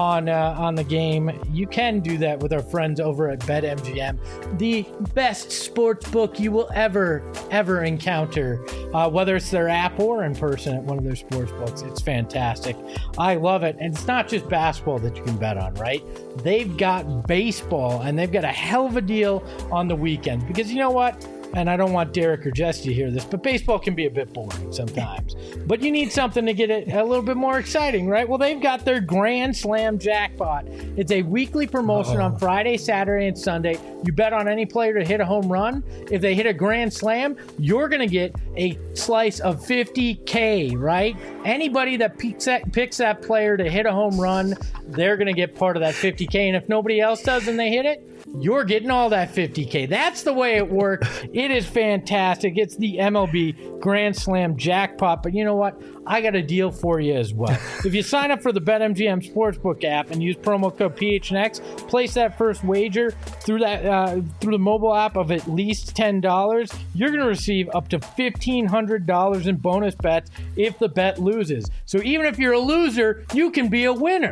on the game, you can do that with our friends over at BetMGM, the best sports book you will ever encounter, whether it's their app or in person at one of their sports books. It's fantastic. I love it. And it's not just basketball that you can bet on, right? They've got baseball, and they've got a hell of a deal on the weekend, because you know what? And I don't want Derek or Jesse to hear this, but baseball can be a bit boring sometimes. But you need something to get it a little bit more exciting, right? Well, they've got their Grand Slam jackpot. It's a weekly promotion on Friday, Saturday, and Sunday. You bet on any player to hit a home run. If they hit a Grand Slam, you're going to get a slice of $50K, right? Anybody that picks that player to hit a home run, they're going to get part of that $50K. And if nobody else does and they hit it, you're getting all that $50K. That's the way it works. It is fantastic. It's the MLB Grand Slam jackpot. But you know what? I got a deal for you as well. If you sign up for the BetMGM Sportsbook app and use promo code PHNX, place that first wager through the mobile app of at least $10, you're going to receive up to $1,500 in bonus bets if the bet loses. So even if you're a loser, you can be a winner.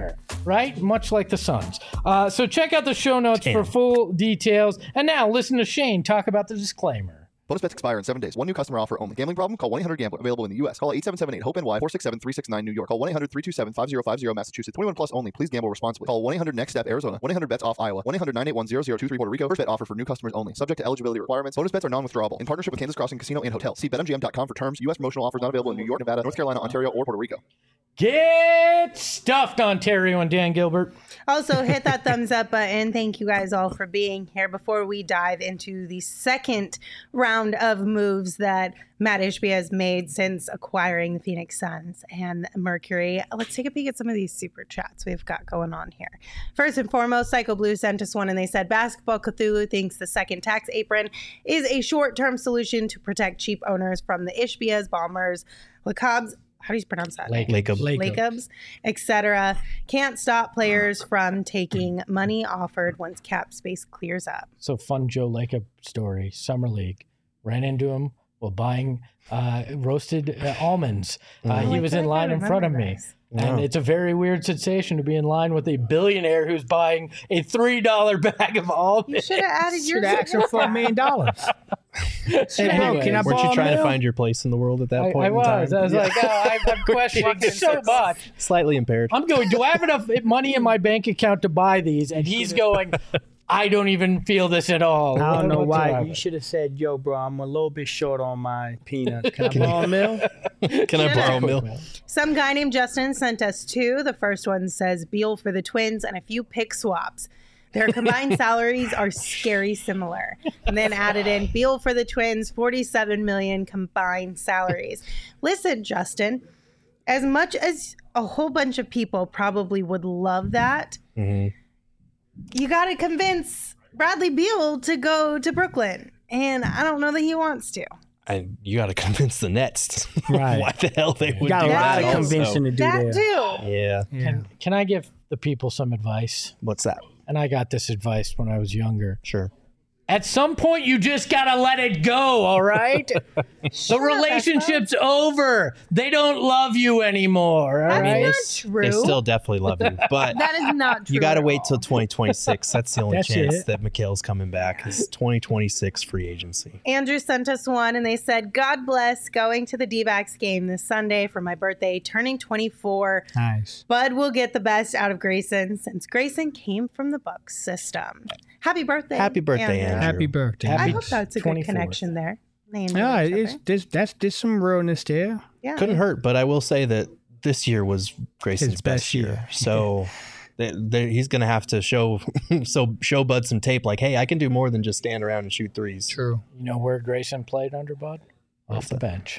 right? Much like the Suns. So check out the show notes for full details. And now listen to Shane talk about the disclaimer. Bonus bets expire in 7 days. One new customer offer only. Gambling problem? Call 1-800-GAMBLER. Available in the U.S. Call 877-8-HOPE-NY 467-369 New York. Call 1-800-327-5050 Massachusetts. 21 plus only. Please gamble responsibly. Call 1-800-NEXT-STEP Arizona. 1-800-BETS-OFF Iowa. 1-800-981-0023 Puerto Rico. First bet offer for new customers only. Subject to eligibility requirements. Bonus bets are non-withdrawable. In partnership with Kansas Crossing Casino and Hotel. See BetMGM.com for terms. U.S. promotional offers not available in New York, Nevada, North Carolina, Ontario, or Puerto Rico. Get stuffed, Ontario and Dan Gilbert. Also, hit that thumbs up button. Thank you guys all for being here. Before we dive into the second round of moves that Matt Ishbia has made since acquiring the Phoenix Suns and Mercury, let's take a peek at some of these super chats we've got going on here. First and foremost, Psycho Blue sent us one and they said, Basketball Cthulhu thinks the second tax apron is a short-term solution to protect cheap owners from the Ishbias, Bombers, LeCobs, how do you pronounce that? Lakeups, etc. Can't stop players from taking money offered once cap space clears up. So fun Joe Lacob story. Summer League. Ran into him while buying roasted almonds. He was in line in front of me. And it's a very weird sensation to be in line with a billionaire who's buying a $3 bag of almonds. You should have added your action for $1 million. Hey, bro, can I Weren't you trying to $1 find your place in the world at that point? I was. I was like, I'm questioning so much. Slightly impaired. I'm going, do I have enough money in my bank account to buy these? And he's going, I don't even feel this at all. I don't know why. whatsoever. You should have said, yo, bro, I'm a little bit short on my peanuts. Can I borrow a mill? Can I borrow a mill? Some guy named Justin sent us two. The first one says Beal for the Twins and a few pick swaps. Their combined salaries are scary similar. And then added in Beal for the Twins, $47 million combined salaries. Listen, Justin, as much as a whole bunch of people probably would love that, you got to convince Bradley Beal to go to Brooklyn. And I don't know that he wants to. You got to convince the Nets. Right. Why the hell they would do Got a that? lot of convincing to do That there. too. Yeah. Can I give the people some advice? What's that? And I got this advice when I was younger. Sure. At some point, you just got to let it go, all right? The relationship's over. They don't love you anymore, all That's right? not true. They still definitely love you, but That is not true. you got to at wait all. till 2026. That's the only That's chance it. that Mikhail's coming back. Is 2026 free agency. Andrew sent us one and they said, God bless going to the D-backs game this Sunday for my birthday, turning 24. Nice. Bud will get the best out of Grayson since Grayson came from the Bucks system. Happy birthday. Happy birthday, Andrew. Happy birthday. I Happy hope that's a 24th. good connection there. They enjoy Yeah, each other. there's some realness there. Yeah. Couldn't hurt, but I will say that this year was Grayson's His best best year. year. So he's going to have to show Bud some tape like, hey, I can do more than just stand around and shoot threes. True. You know where Grayson played under Bud? Off the bench.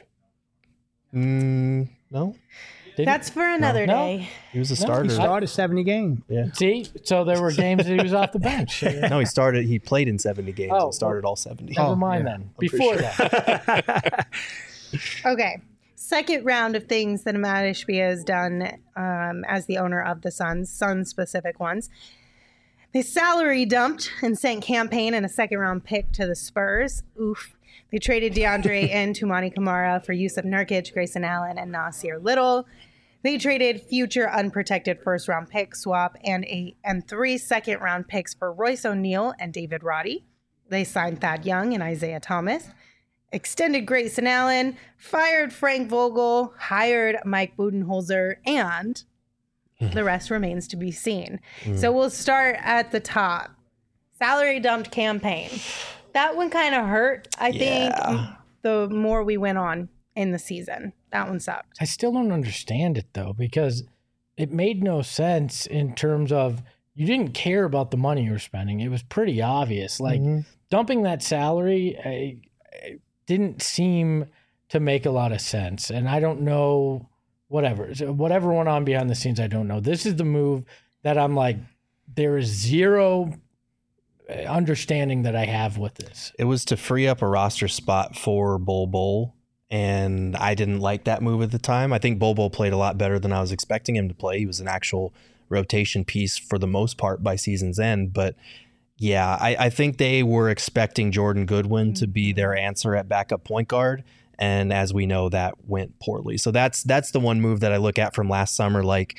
No, That's for another No. day. he was a He starter. started 70 games. See? So there were games that he was off the bench. No, he played in 70 games Oh, and started all 70. Never mind yeah. then. Before that. Okay. Second round of things that Matt Ishbia has done as the owner of the Suns specific ones. They salary dumped and sent campaign and a second round pick to the Spurs. Oof. They traded DeAndre and Tumani Kamara for Yusuf Nurkic, Grayson Allen, and Nasir Little. They traded future unprotected first round pick swap and 3 second round picks for Royce O'Neal and David Roddy. They signed Thad Young and Isaiah Thomas. Extended Grayson Allen, fired Frank Vogel, hired Mike Budenholzer, and the rest remains to be seen. So we'll start at the top. Salary dumped campaign. That one kind of hurt, I think, the more we went on in the season. That one sucked. I still don't understand it, though, because it made no sense in terms of you didn't care about the money you were spending. It was pretty obvious. Like, dumping that salary didn't seem to make a lot of sense. And I don't know, whatever went on behind the scenes, I don't know. This is the move that I'm like, there is zero understanding that I have with this. It was to free up a roster spot for Bol, and I didn't like that move at the time. I think Bol played a lot better than I was expecting him to play. He was an actual rotation piece for the most part by season's end, but yeah, I think they were expecting Jordan Goodwin to be their answer at backup point guard. And as we know, that went poorly. So that's the one move that I look at from last summer. Like,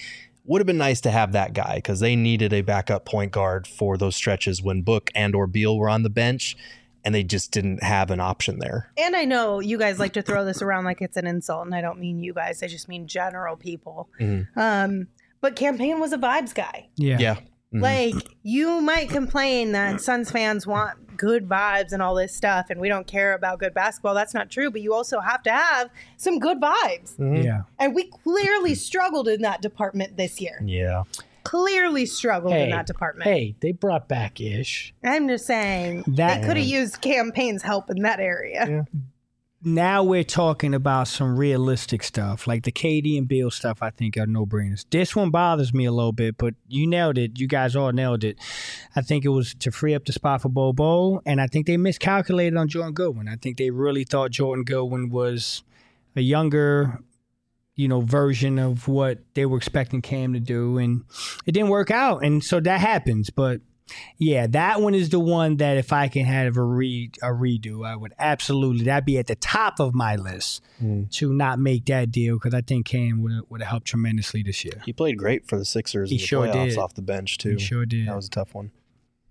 would have been nice to have that guy because they needed a backup point guard for those stretches when Book and or Beal were on the bench, and they just didn't have an option there. And I know you guys like to throw this around like it's an insult, and I don't mean you guys. I just mean general people. But Campaign was a vibes guy. Yeah. Like, you might complain that Suns fans want good vibes and all this stuff, and we don't care about good basketball. That's not true, but you also have to have some good vibes. Yeah. And we clearly struggled in that department this year. Yeah. Clearly struggled in that department. Hey, they brought back Ish. I'm just saying, That- they could have used Campaign's help in that area. Yeah. Now we're talking about some realistic stuff, like the KD and Beal stuff. I think are no-brainers. This one bothers me a little bit, but you nailed it. You guys all nailed it. I think it was to free up the spot for Bobo, and I think they miscalculated on Jordan Goodwin. I think they really thought Jordan Goodwin was a younger, version of what they were expecting Cam to do, and it didn't work out, and so that happens. But yeah, that one is the one that if I can have a redo, I would absolutely. That'd be at the top of my list to not make that deal because I think Cam would have helped tremendously this year. He played great for the Sixers in the sure playoffs did. off the bench, too. He sure did. That was a tough one.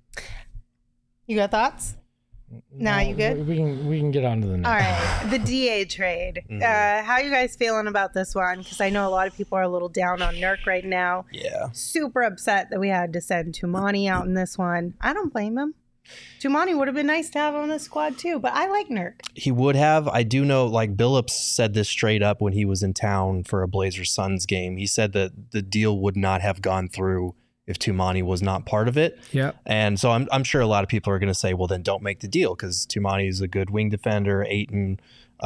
You got thoughts? No, you good? We can get on to the next. All right, the DA trade. How you guys feeling about this one? Because I know a lot of people are a little down on Nurk right now. Yeah. Super upset that we had to send Tumani out in this one. I don't blame him. Tumani would have been nice to have on the squad too, but I like Nurk. He would have. I do know, like, Billups said this straight up when he was in town for a Blazers Suns game. He said that the deal would not have gone through if Tumani was not part of it. Yeah. And so I'm sure a lot of people are going to say, well, then don't make the deal because Tumani is a good wing defender, Ayton,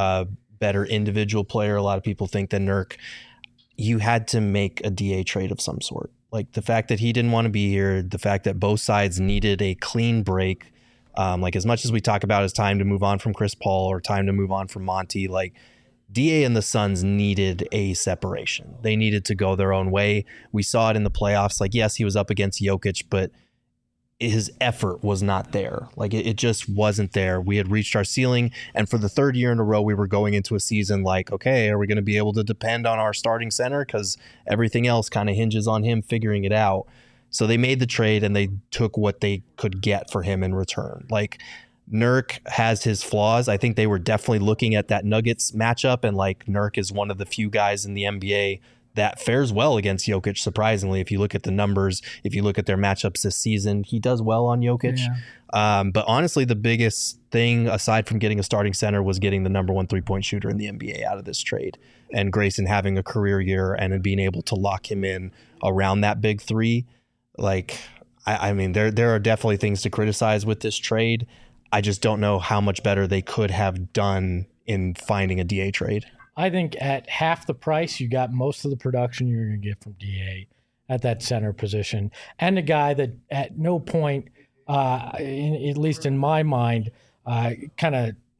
better individual player. A lot of people think than Nurk. You had to make a DA trade of some sort. Like the fact that he didn't want to be here, the fact that both sides needed a clean break. Like as much as we talk about it's time to move on from Chris Paul or time to move on from Monty, like DA and the Suns needed a separation. They needed to go their own way. We saw it in the playoffs. Like, yes, he was up against Jokic, but his effort was not there. Like it just wasn't there. We had reached our ceiling. And for the third year in a row, we were going into a season like, okay, are we going to be able to depend on our starting center? Because everything else kind of hinges on him figuring it out. So they made the trade and they took what they could get for him in return. Like Nurk has his flaws. I think they were definitely looking at that Nuggets matchup, and like Nurk is one of the few guys in the NBA that fares well against Jokic, surprisingly. If you look at the numbers, if you look at their matchups this season, he does well on Jokic. Yeah. But honestly, the biggest thing, aside from getting a starting center, was getting the number one three-point shooter in the NBA out of this trade. And Grayson having a career year and being able to lock him in around that big three. Like, I mean, there are definitely things to criticize with this trade. I just don't know how much better they could have done in finding a DA trade. I think at half the price, you got most of the production you're going to get from DA at that center position, and a guy that at no point, at least in my mind, kind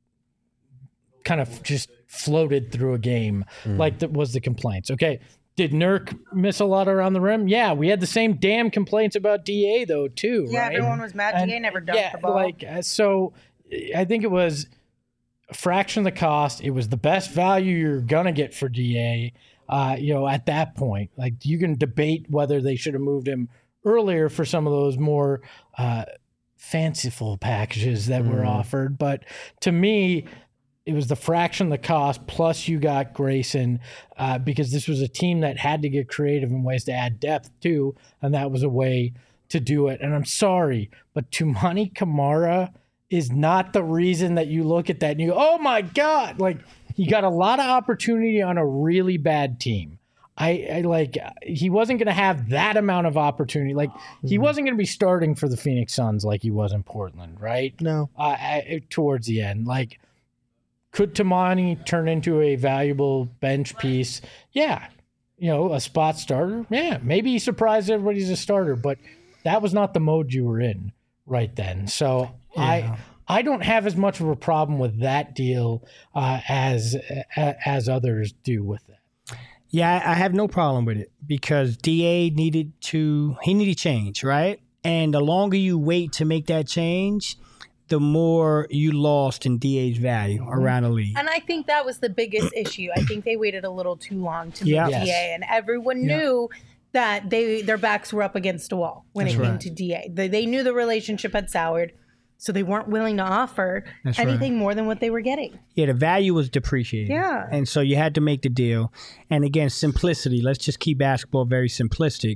of just floated through a game like that was the complaints. Okay, did Nurk miss a lot around the rim? Yeah, we had the same damn complaints about DA though too. Yeah, right? everyone was mad. DA never dunked the ball. So I think it was a fraction of the cost. It was the best value you're gonna get for DA. At that point, like you can debate whether they should have moved him earlier for some of those more fanciful packages that were offered. But to me, it was the fraction of the cost, plus you got Grayson, because this was a team that had to get creative in ways to add depth too, and that was a way to do it. And I'm sorry, but Tumani Kamara is not the reason that you look at that and you go, oh my God, like he got a lot of opportunity on a really bad team. He wasn't going to have that amount of opportunity. Like he wasn't going to be starting for the Phoenix Suns like he was in Portland, right? No. Towards the end, like, could Tumani turn into a valuable bench piece? Yeah. A spot starter? Yeah. Maybe he surprised everybody he's a starter, but that was not the mode you were in right then. So yeah. I don't have as much of a problem with that deal as others do with it. Yeah, I have no problem with it because DA needed change, right? And the longer you wait to make that change, the more you lost in DA's value around the league. And I think that was the biggest issue. I think they waited a little too long to move Yeah. DA, and everyone knew that their backs were up against a wall when it came to DA. They knew the relationship had soured, so they weren't willing to offer anything more than what they were getting. Yeah, the value was depreciating. Yeah. And so you had to make the deal. And again, simplicity. Let's just keep basketball very simplistic.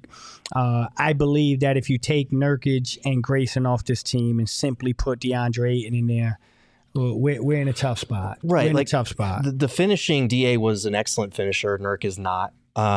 I believe that if you take Nurkic and Grayson off this team and simply put DeAndre Ayton in there, we're in a tough spot. Right. We're in a tough spot. The finishing, DA was an excellent finisher. Nurk is not.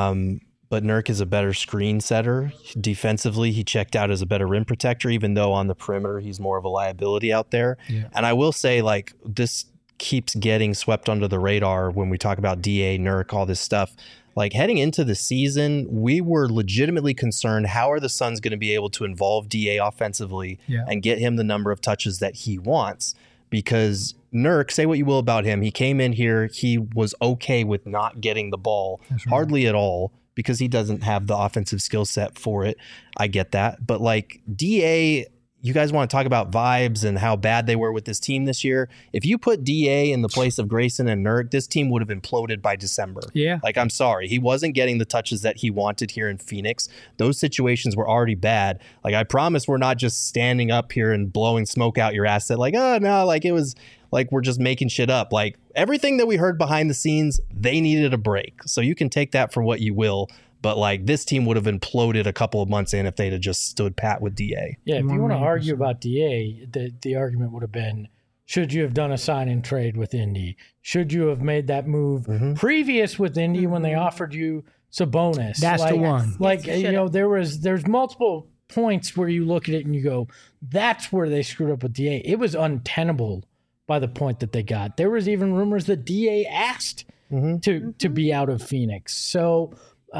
But Nurk is a better screen setter. Defensively, he checked out as a better rim protector, even though on the perimeter, he's more of a liability out there. Yeah. And I will say, like, this keeps getting swept under the radar when we talk about DA, Nurk, all this stuff. Like, heading into the season, we were legitimately concerned, how are the Suns going to be able to involve DA offensively and get him the number of touches that he wants? Because Nurk, say what you will about him, he came in here, he was okay with not getting the ball, hardly at all, because he doesn't have the offensive skill set for it. I get that. But like DA, you guys want to talk about vibes and how bad they were with this team this year. If you put DA in the place of Grayson and Nurk, this team would have imploded by December. Yeah. Like, I'm sorry. He wasn't getting the touches that he wanted here in Phoenix. Those situations were already bad. Like, I promise we're not just standing up here and blowing smoke out your ass that like, oh no, like it was like we're just making shit up. Like, everything that we heard behind the scenes, they needed a break. So you can take that for what you will. But like, this team would have imploded a couple of months in if they'd have just stood pat with DA. Yeah, if you want to argue about DA, the argument would have been, should you have done a sign and trade with Indy? Should you have made that move previous with Indy when they offered you Sabonis? That's the one. Like, you know, there's multiple points where you look at it and you go, that's where they screwed up with DA. It was untenable by the point that they got. There was even rumors that DA asked to be out of Phoenix. So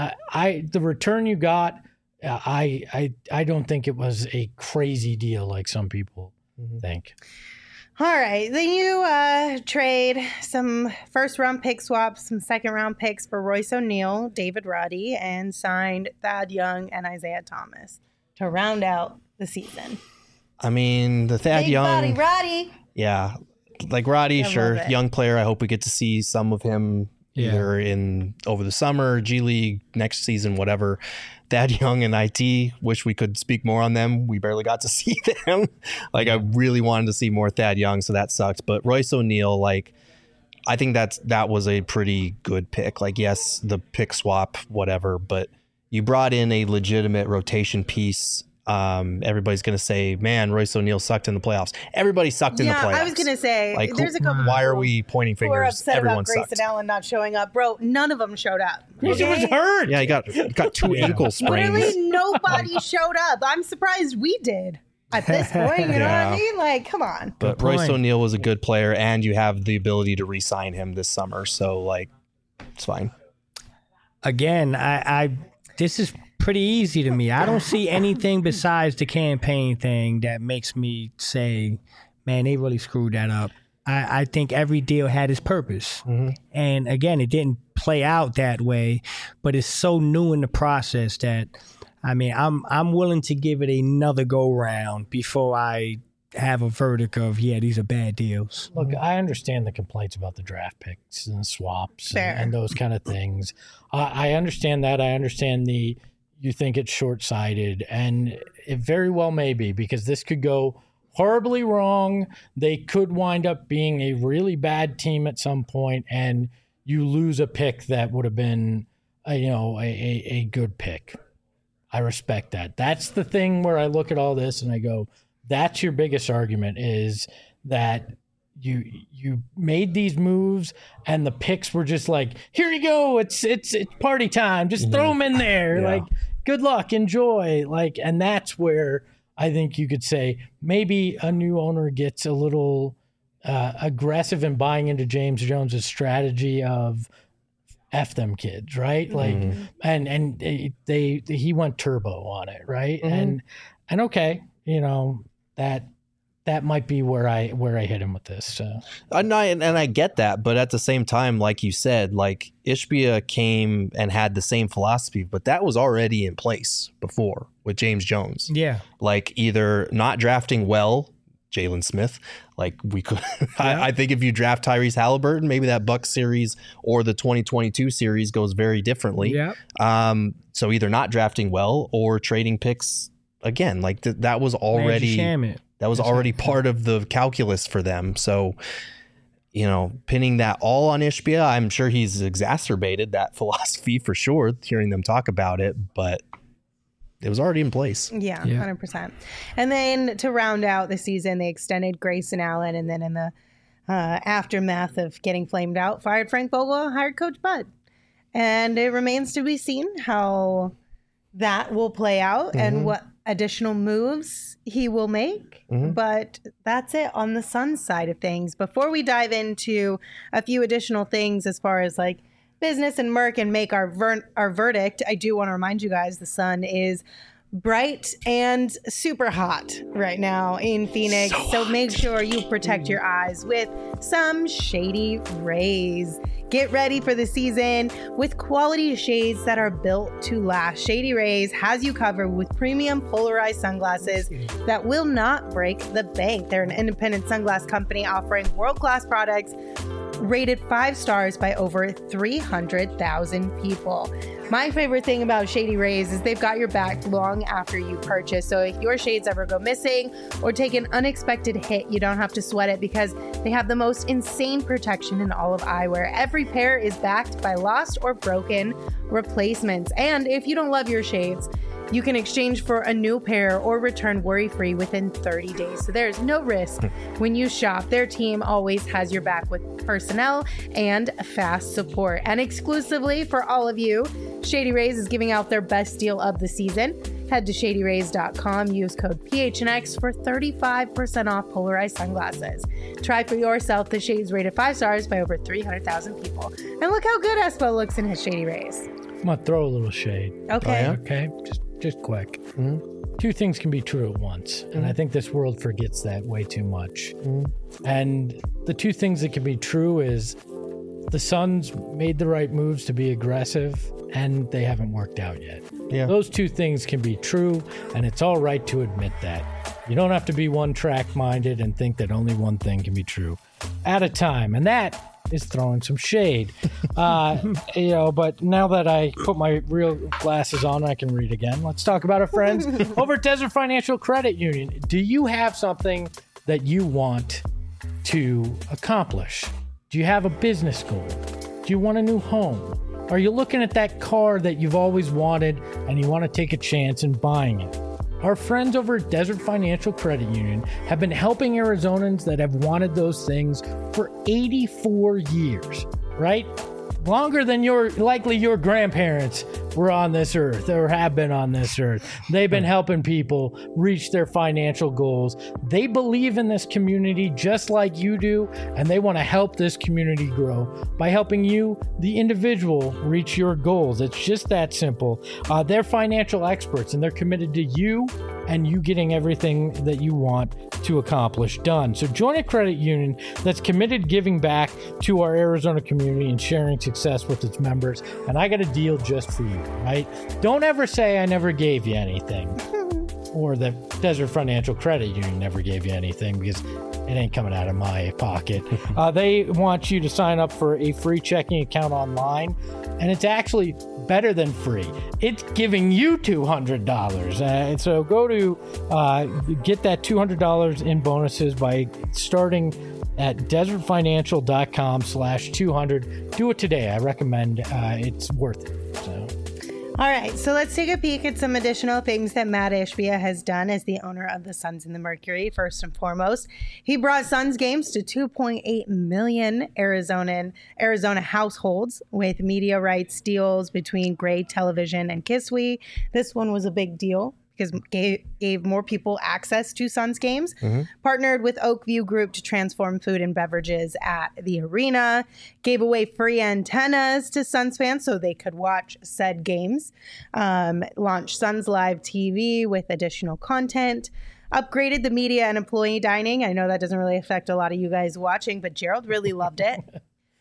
the return you got, I don't think it was a crazy deal like some people think. All right. Then you trade some first-round pick swaps, some second-round picks for Royce O'Neal, David Roddy, and signed Thad Young and Isaiah Thomas to round out the season. I mean, the Thad Big Young. Body Roddy. Yeah. Like Roddy, sure. Young player. I hope we get to see some of him either in over the summer, G League, next season, whatever. Thad Young and IT, wish we could speak more on them. We barely got to see them. Like, I really wanted to see more Thad Young, so that sucked. But Royce O'Neal, like, I think that was a pretty good pick. Like, yes, the pick swap, whatever, but you brought in a legitimate rotation piece. Everybody's going to say, man, Royce O'Neal sucked in the playoffs. Everybody sucked in the playoffs. I was going to say, like, there's a couple. Why are we pointing fingers? Who are upset Everyone about Grayson Allen not showing up. Bro, none of them showed up. He was hurt. Yeah, he got two ankle sprains. Literally nobody showed up. I'm surprised we did at this point. You know what I mean? Like, come on. But Royce O'Neal was a good player, and you have the ability to re-sign him this summer. So, like, it's fine. Again, this is pretty easy to me. I don't see anything besides the campaign thing that makes me say, man, they really screwed that up. I think every deal had its purpose. And again, it didn't play out that way, but it's so new in the process that, I mean, I'm willing to give it another go round before I have a verdict of, these are bad deals. Look, I understand the complaints about the draft picks and swaps and those kind of things. I understand that. I understand you think it's short-sighted, and it very well may be, because this could go horribly wrong. They could wind up being a really bad team at some point, and you lose a pick that would have been, a good pick. I respect that. That's the thing where I look at all this and I go, that's your biggest argument, is that you made these moves and the picks were just like, here you go, it's party time, just throw them in there, like, good luck, enjoy, like. And that's where I think you could say maybe a new owner gets a little aggressive in buying into James Jones's strategy of F them kids, right? Like, and he went turbo on it, right? And okay, that might be where I hit him with this. So. And I get that, but at the same time, like you said, like, Ishbia came and had the same philosophy, but that was already in place before with James Jones. Yeah. Like, either not drafting well Jalen Smith. Like we could, I think if you draft Tyrese Halliburton, maybe that Bucks series or the 2022 series goes very differently. Yeah. So either not drafting well or trading picks again. Like that was already part of the calculus for them. So, you know, pinning that all on Ishbia, I'm sure he's exacerbated that philosophy for sure, hearing them talk about it, but it was already in place. Yeah, 100%. And then to round out the season, they extended Grayson Allen, and then in the aftermath of getting flamed out, fired Frank Vogel, hired Coach Bud. And it remains to be seen how that will play out and what additional moves he will make. But that's it on the Suns side of things. Before we dive into a few additional things as far as like business and Merc and make our verdict, I do want to remind you guys the sun is bright and super hot right now in Phoenix. So make sure you protect your eyes with some Shady Rays. Get ready for the season with quality shades that are built to last. Shady Rays has you covered with premium polarized sunglasses that will not break the bank. They're an independent sunglass company offering world-class products rated 5 stars by over 300,000 people. My favorite thing about Shady Rays is they've got your back long after you purchase. So if your shades ever go missing or take an unexpected hit, you don't have to sweat it because they have the most insane protection in all of eyewear. Every pair is backed by lost or broken replacements. And if you don't love your shades, you can exchange for a new pair or return worry-free within 30 days. So there's no risk when you shop. Their team always has your back with personnel and fast support. And exclusively for all of you, Shady Rays is giving out their best deal of the season. Head to shadyrays.com, use code PHNX for 35% off polarized sunglasses. Try for yourself the shades rated 5 stars by over 300,000 people. And look how good Espo looks in his Shady Rays. I'm going to throw a little shade. Okay. Okay? Just quick. Two things can be true at once. And I think this world forgets that way too much. And the two things that can be true is the Suns made the right moves to be aggressive and they haven't worked out yet. Yeah. Those two things can be true, and it's all right to admit that. You don't have to be one-track minded and think that only one thing can be true at a time. And that is throwing some shade. But now that I put my real glasses on, I can read again. Let's talk about our friends over at Desert Financial Credit Union. Do you have something that you want to accomplish? Do you have a business goal? Do you want a new home? Are you looking at that car that you've always wanted and you want to take a chance in buying it? Our friends over at Desert Financial Credit Union have been helping Arizonans that have wanted those things for 84 years, right? Longer than your grandparents were on this earth or have been on this earth. They've been helping people reach their financial goals. They believe in this community just like you do, and they want to help this community grow by helping you, the individual, reach your goals. It's just that simple. They're financial experts, and they're committed to you and you getting everything that you want to accomplish done. So join a credit union that's committed to giving back to our Arizona community and sharing success with its members. And I got a deal just for you, right? Don't ever say I never gave you anything or that Desert Financial Credit Union never gave you anything, because it ain't coming out of my pocket. They want you to sign up for a free checking account online, and it's actually better than free. It's giving you $200. So go to get that $200 in bonuses by starting at desertfinancial.com/200. Do it today. I recommend. It's worth it. So. All right, so let's take a peek at some additional things that Matt Ishbia has done as the owner of the Suns and the Mercury. First and foremost, he brought Suns games to 2.8 million Arizona households with media rights deals between Gray Television and Kiswe. This one was a big deal because gave more people access to Suns games. Partnered with Oakview Group to transform food and beverages at the arena. Gave away free antennas to Suns fans so they could watch said games. Launched Suns Live TV with additional content. Upgraded the media and employee dining. I know that doesn't really affect a lot of you guys watching, but Gerald really loved it.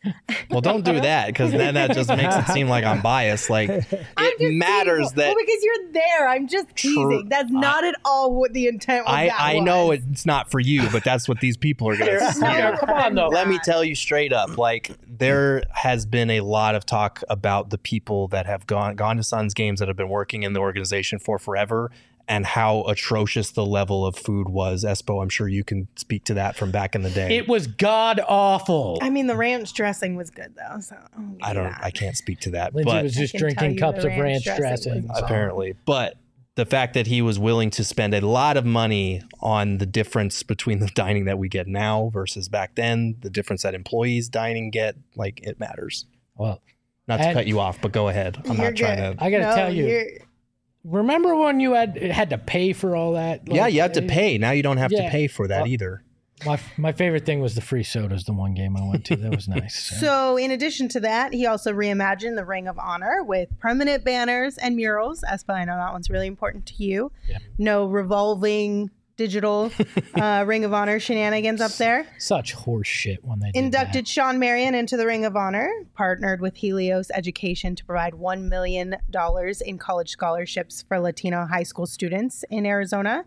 Well, don't do that, because then that just makes it seem like I'm biased. Like, it matters that. Well, because you're there. I'm just teasing. That's not at all what the intent of that I was. know it's not for you, but that's what these people are going to see. Come on, though. Let me tell you straight up, like, there has been a lot of talk about the people that have gone to Suns games that have been working in the organization for forever, and how atrocious the level of food was. Espo, I'm sure you can speak to that from back in the day. It was god awful. I mean, the ranch dressing was good though. So I can't speak to that. Lindsay but was just I can tell drinking you cups the of ranch ranch dressing dressing. was apparently. But the fact that he was willing to spend a lot of money on the difference between the dining that we get now versus back then, the difference that employees dining get, like, it matters. Well, Not to cut you off, but go ahead. I'm You're not trying good. to. I got to tell you. Remember when you had to pay for all that? Yeah, you have to pay. Now you don't have to Yeah. pay for that either. My favorite thing was the free sodas, the one game I went to. That was nice. So, in addition to that, he also reimagined the Ring of Honor with permanent banners and murals. Espa, I know that one's really important to you. Yeah. No revolving digital Ring of Honor shenanigans up there. Such horse shit when they did Inducted Sean Marion into the Ring of Honor, partnered with Helios Education to provide $1 million in college scholarships for Latino high school students in Arizona.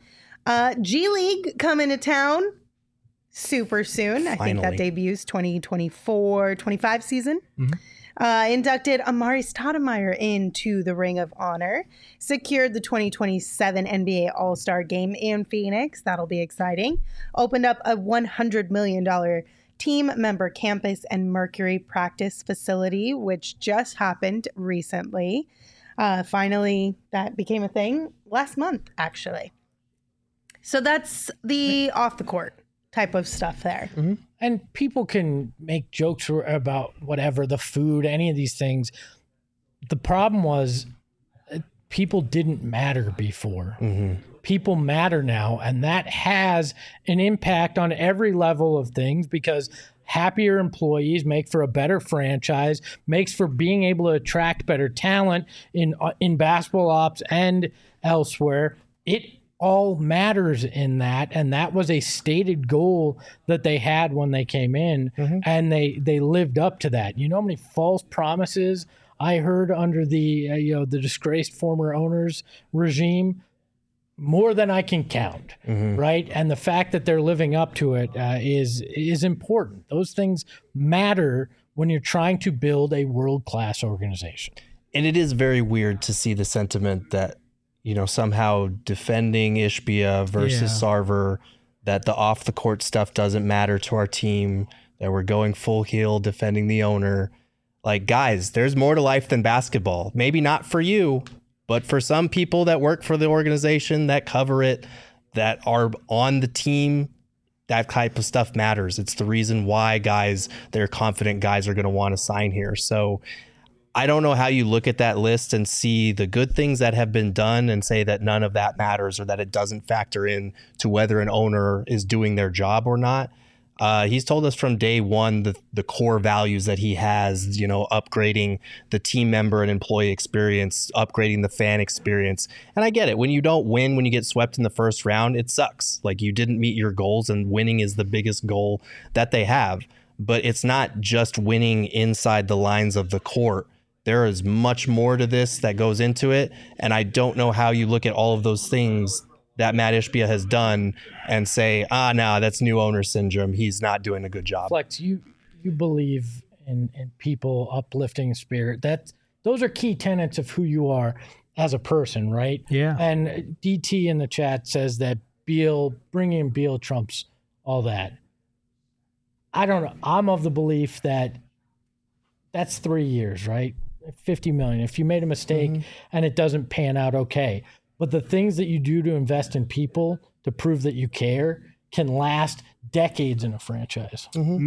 G League coming to town super soon. I think that Finally. debuts 2024-25 season. Inducted Amari Stoudemire into the Ring of Honor. Secured the 2027 NBA All-Star Game in Phoenix. That'll be exciting. Opened up a $100 million team member campus and Mercury practice facility, which just happened recently. Finally, that became a thing last month, actually. So that's the off the court type of stuff there. And people can make jokes about whatever, the food, any of these things. The problem was people didn't matter before. People matter now, and that has an impact on every level of things, because happier employees make for a better franchise, makes for being able to attract better talent in basketball ops and elsewhere. It all matters in that, and that was a stated goal that they had when they came in, and they lived up to that. You know how many false promises I heard under the the disgraced former owners regime? More than I can count, right? And the fact that they're living up to it is important. Those things matter when you're trying to build a world-class organization. And it is very weird to see the sentiment that, somehow defending Ishbia versus Sarver, that the off the court stuff doesn't matter to our team, that we're going full heel defending the owner. Like, guys, there's more to life than basketball. Maybe not for you, but for some people that work for the organization, that cover it, that are on the team, that type of stuff matters. It's the reason why they're confident guys are going to want to sign here. So I don't know how you look at that list and see the good things that have been done and say that none of that matters, or that it doesn't factor in to whether an owner is doing their job or not. He's told us from day one the core values that he has, upgrading the team member and employee experience, upgrading the fan experience. And I get it. When you don't win, when you get swept in the first round, it sucks. Like, you didn't meet your goals, and winning is the biggest goal that they have. But it's not just winning inside the lines of the court. There is much more to this that goes into it. And I don't know how you look at all of those things that Matt Ishbia has done and say, no, that's new owner syndrome. He's not doing a good job. Flex, you believe in people uplifting spirit. Those are key tenets of who you are as a person, right? Yeah. And DT in the chat says that bringing in Beal trumps all that. I don't know. I'm of the belief that that's 3 years, right? 50 million. If you made a mistake and it doesn't pan out, okay. But the things that you do to invest in people to prove that you care can last decades in a franchise.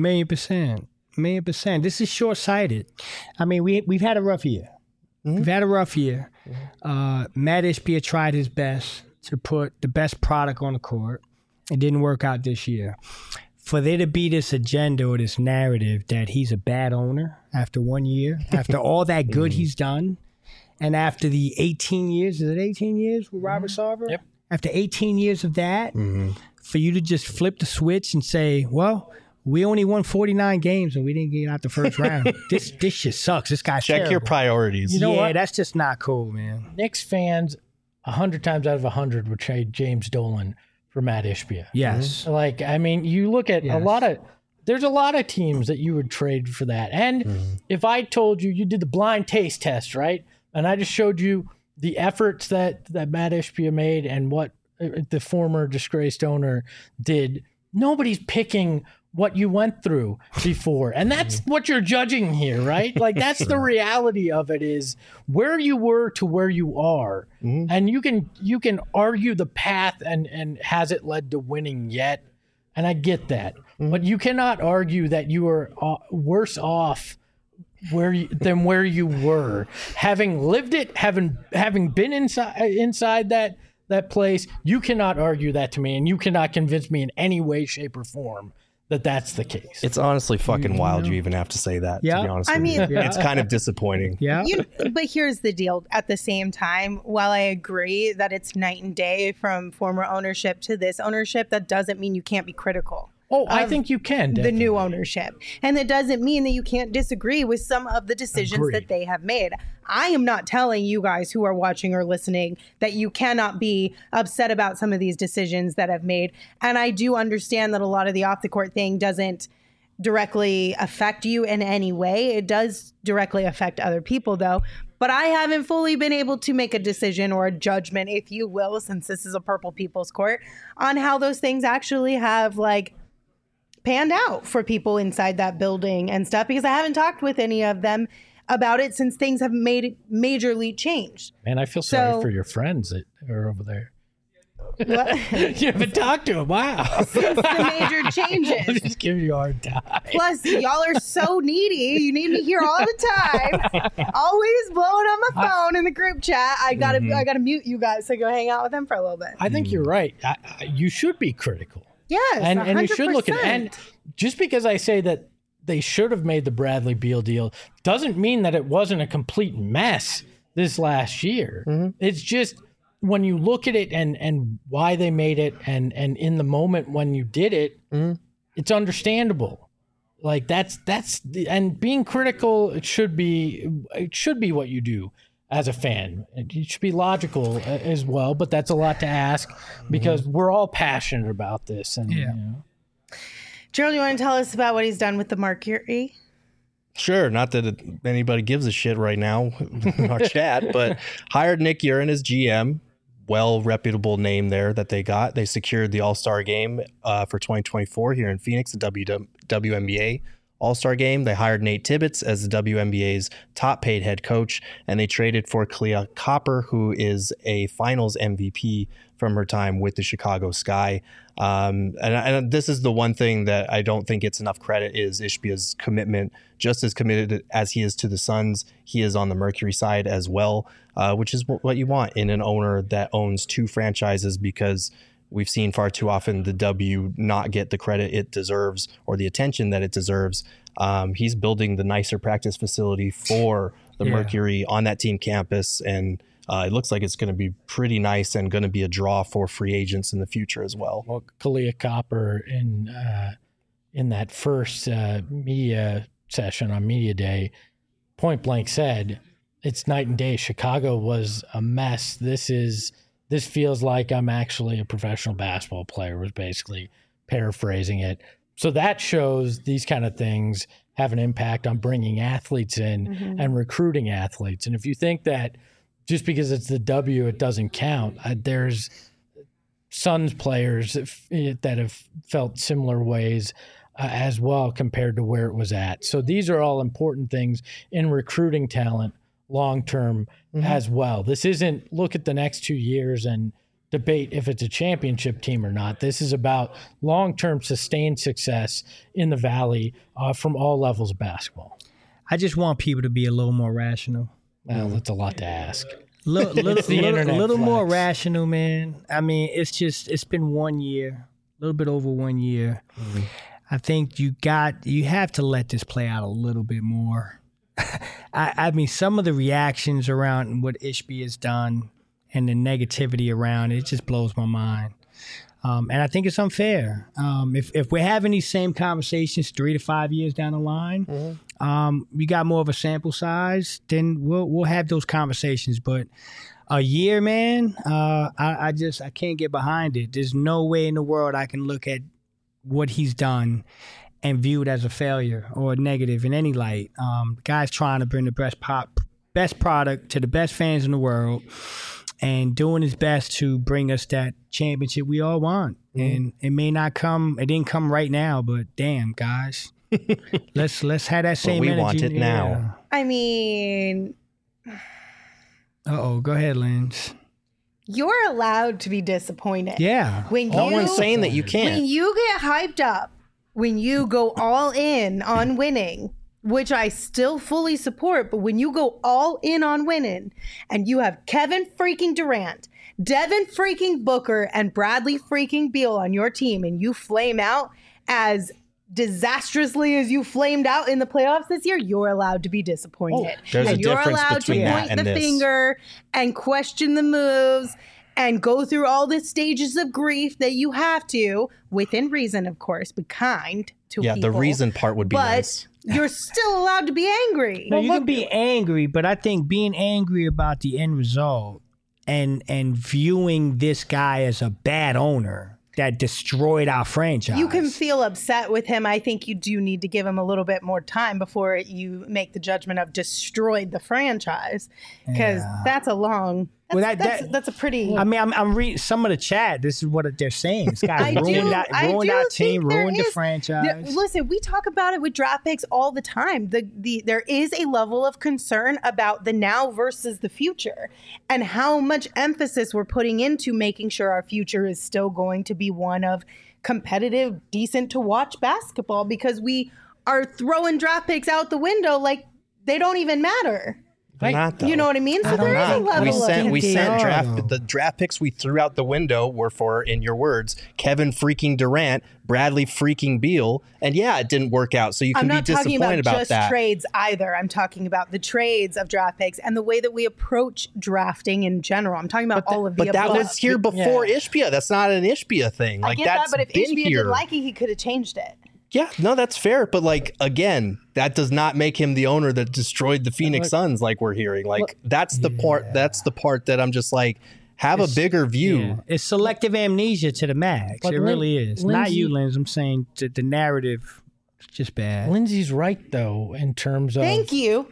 1,000,000%. This is short-sighted. I mean, we've had a rough year. We've had a rough year. Matt Ishbia tried his best to put the best product on the court. It didn't work out this year. For there to be this agenda or this narrative that he's a bad owner after 1 year, after all that good he's done, and after the 18 years, is it 18 years with Robert Sarver? Yep. After 18 years of that, for you to just flip the switch and say, well, We only won 49 games and we didn't get out the first round. This shit sucks. This guy's Check your terrible. priorities. You know what? That's just not cool, man. Knicks fans, 100 times out of 100 would trade James Dolan for Matt Ishbia. Yes. Like, I mean, you look at Yes. there's a lot of teams that you would trade for that. And if I told you did the blind taste test, right? And I just showed you the efforts that Matt Ishbia made and what the former disgraced owner did, nobody's picking what you went through before. And that's what you're judging here, right? Like, that's the reality of it, is where you were to where you are. And you can argue the path and has it led to winning yet? And I get that. But you cannot argue that you are worse off than where you were. Having lived it, having been inside that place, you cannot argue that to me, and you cannot convince me in any way, shape, or form that that's the case. It's honestly fucking wild you even have to say that, Yeah. to be honest I with mean- you. It's kind of disappointing. Yeah. But here's the deal. At the same time, while I agree that it's night and day from former ownership to this ownership, that doesn't mean you can't be critical. Oh, I think you can. The new ownership. And that doesn't mean that you can't disagree with some of the decisions Agreed. that they have made. I am not telling you guys who are watching or listening that you cannot be upset about some of these decisions that have made. And I do understand that a lot of the off the court thing doesn't directly affect you in any way. It does directly affect other people, though. But I haven't fully been able to make a decision or a judgment, if you will, since this is a Purple People's Court, on how those things actually have panned out for people inside that building and stuff, because I haven't talked with any of them about it since things have made majorly changed. Man, I feel sorry So- for your friends that are over there. What? You haven't talked to them. Wow. The major changes. Just giving you a hard time. Plus, y'all are so needy. You need me here all the time. Always blowing on my phone in the group chat. I gotta mute you guys to go hang out with them for a little bit. I think you're right. You should be critical. Yes, and you should look at it. 100%. And just because I say that they should have made the Bradley Beal deal doesn't mean that it wasn't a complete mess this last year. It's just when you look at it and why they made it and in the moment when you did it, it's understandable. Like that's and being critical, it should be what you do as a fan. You should be logical as well, but that's a lot to ask because we're all passionate about this. And Yeah. you know. Gerald, you want to tell us about what he's done with the Mercury? Sure, not that anybody gives a shit right now in our chat, but hired Nick Urin as GM. Well reputable name there that they got. They secured the All-Star game for 2024 here in Phoenix, the WNBA All-Star game. They hired Nate Tibbetts as the WNBA's top paid head coach, and they traded for Clea Copper, who is a finals MVP from her time with the Chicago Sky. And this is the one thing that I don't think gets enough credit is Ishbia's commitment. Just as committed as he is to the Suns, he is on the Mercury side as well, which is what you want in an owner that owns two franchises, because we've seen far too often the W not get the credit it deserves or the attention that it deserves. He's building the nicer practice facility for the Mercury on that team campus, and it looks like it's going to be pretty nice and going to be a draw for free agents in the future as well. Well, Kalia Copper in that first media session on Media Day, point blank said, "It's night and day. Chicago was a mess. This feels like I'm actually a professional basketball player," was basically paraphrasing it. So that shows these kind of things have an impact on bringing athletes in and recruiting athletes. And if you think that just because it's the W, it doesn't count, there's Suns players that have felt similar ways as well compared to where it was at. So these are all important things in recruiting talent long-term as well. This isn't look at the next 2 years and debate if it's a championship team or not. This is about long-term sustained success in the Valley from all levels of basketball. I just want people to be a little more rational. Well, that's a lot to ask. Little internet more flex. rational, man. I mean, it's been 1 year, a little bit over 1 year. I think you have to let this play out a little bit more. I mean, some of the reactions around what Ishbia has done and the negativity around it just blows my mind. And I think it's unfair. If we're having these same conversations 3 to 5 years down the line, we got more of a sample size, then we'll have those conversations. But a year, man, I can't get behind it. There's no way in the world I can look at what he's done and view it as a failure or a negative in any light. The guy's trying to bring the best product to the best fans in the world, and doing his best to bring us that championship we all want. And it may not come, it didn't come right now, but damn, guys, let's have that same energy. We want it now. I mean, go ahead, Linz. you're allowed to be disappointed. Yeah. When No you, one's saying that you can't. when you get hyped up, when you go all in on winning, which I still fully support, but when you go all in on winning and you have Kevin freaking Durant, Devin freaking Booker, and Bradley freaking Beal on your team, and you flame out as disastrously as you flamed out in the playoffs this year, you're allowed to be disappointed. There's a and you're difference allowed to between that point and the this. finger and question the moves and go through all the stages of grief that you have to, within reason, of course, be kind to Yeah, people. the reason part would be but nice. you're still allowed to be angry. No, you can be angry, but I think being angry about the end result and viewing this guy as a bad owner that destroyed our franchise. You can feel upset with him. I think you do need to give him a little bit more time before you make the judgment of destroyed the franchise, because that's a long. That's a pretty. I mean, I'm reading some of the chat. This is what they're saying. This guy ruined our team, ruined the franchise. Listen, we talk about it with draft picks all the time. There is a level of concern about the now versus the future, and how much emphasis we're putting into making sure our future is still going to be one of competitive, decent to watch basketball, because we are throwing draft picks out the window like they don't even matter. They're not, though. You know what I mean? So there is a level we sent of the draft picks we threw out the window were for, in your words, Kevin freaking Durant, Bradley freaking Beal, and yeah, it didn't work out. So you can be disappointed about just that. trades either. I'm talking about the trades of draft picks and the way that we approach drafting in general. I'm talking about all of the But that above. was here before Ishbia. That's not an Ishbia thing. I Like get that, that's but if been Ishbia here. didn't like it, he could have changed it. Yeah, no, that's fair. But like again, that does not make him the owner that destroyed the Phoenix Suns, like we're hearing. Like that's the part. That's the part that I'm just like, have a bigger view. Yeah. It's selective amnesia to the max. But It really is. Not you, Linz. I'm saying the narrative is just bad. Lindsay's right, though, in terms of... Thank you.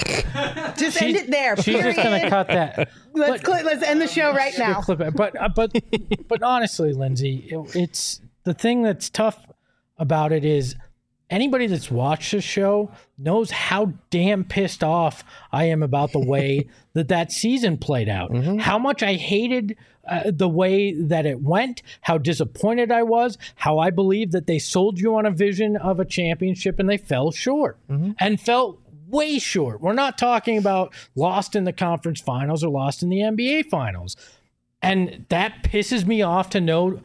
Just end it there. She's just going to period. cut that. Let's end the show right now. Clip it. But honestly, Lindsay, it's the thing that's tough about it is anybody that's watched the show knows how damn pissed off I am about the way that season played out. How much I hated the way that it went, how disappointed I was, how I believe that they sold you on a vision of a championship and they fell short and fell way short. We're not talking about lost in the conference finals or lost in the NBA finals. And that pisses me off to know,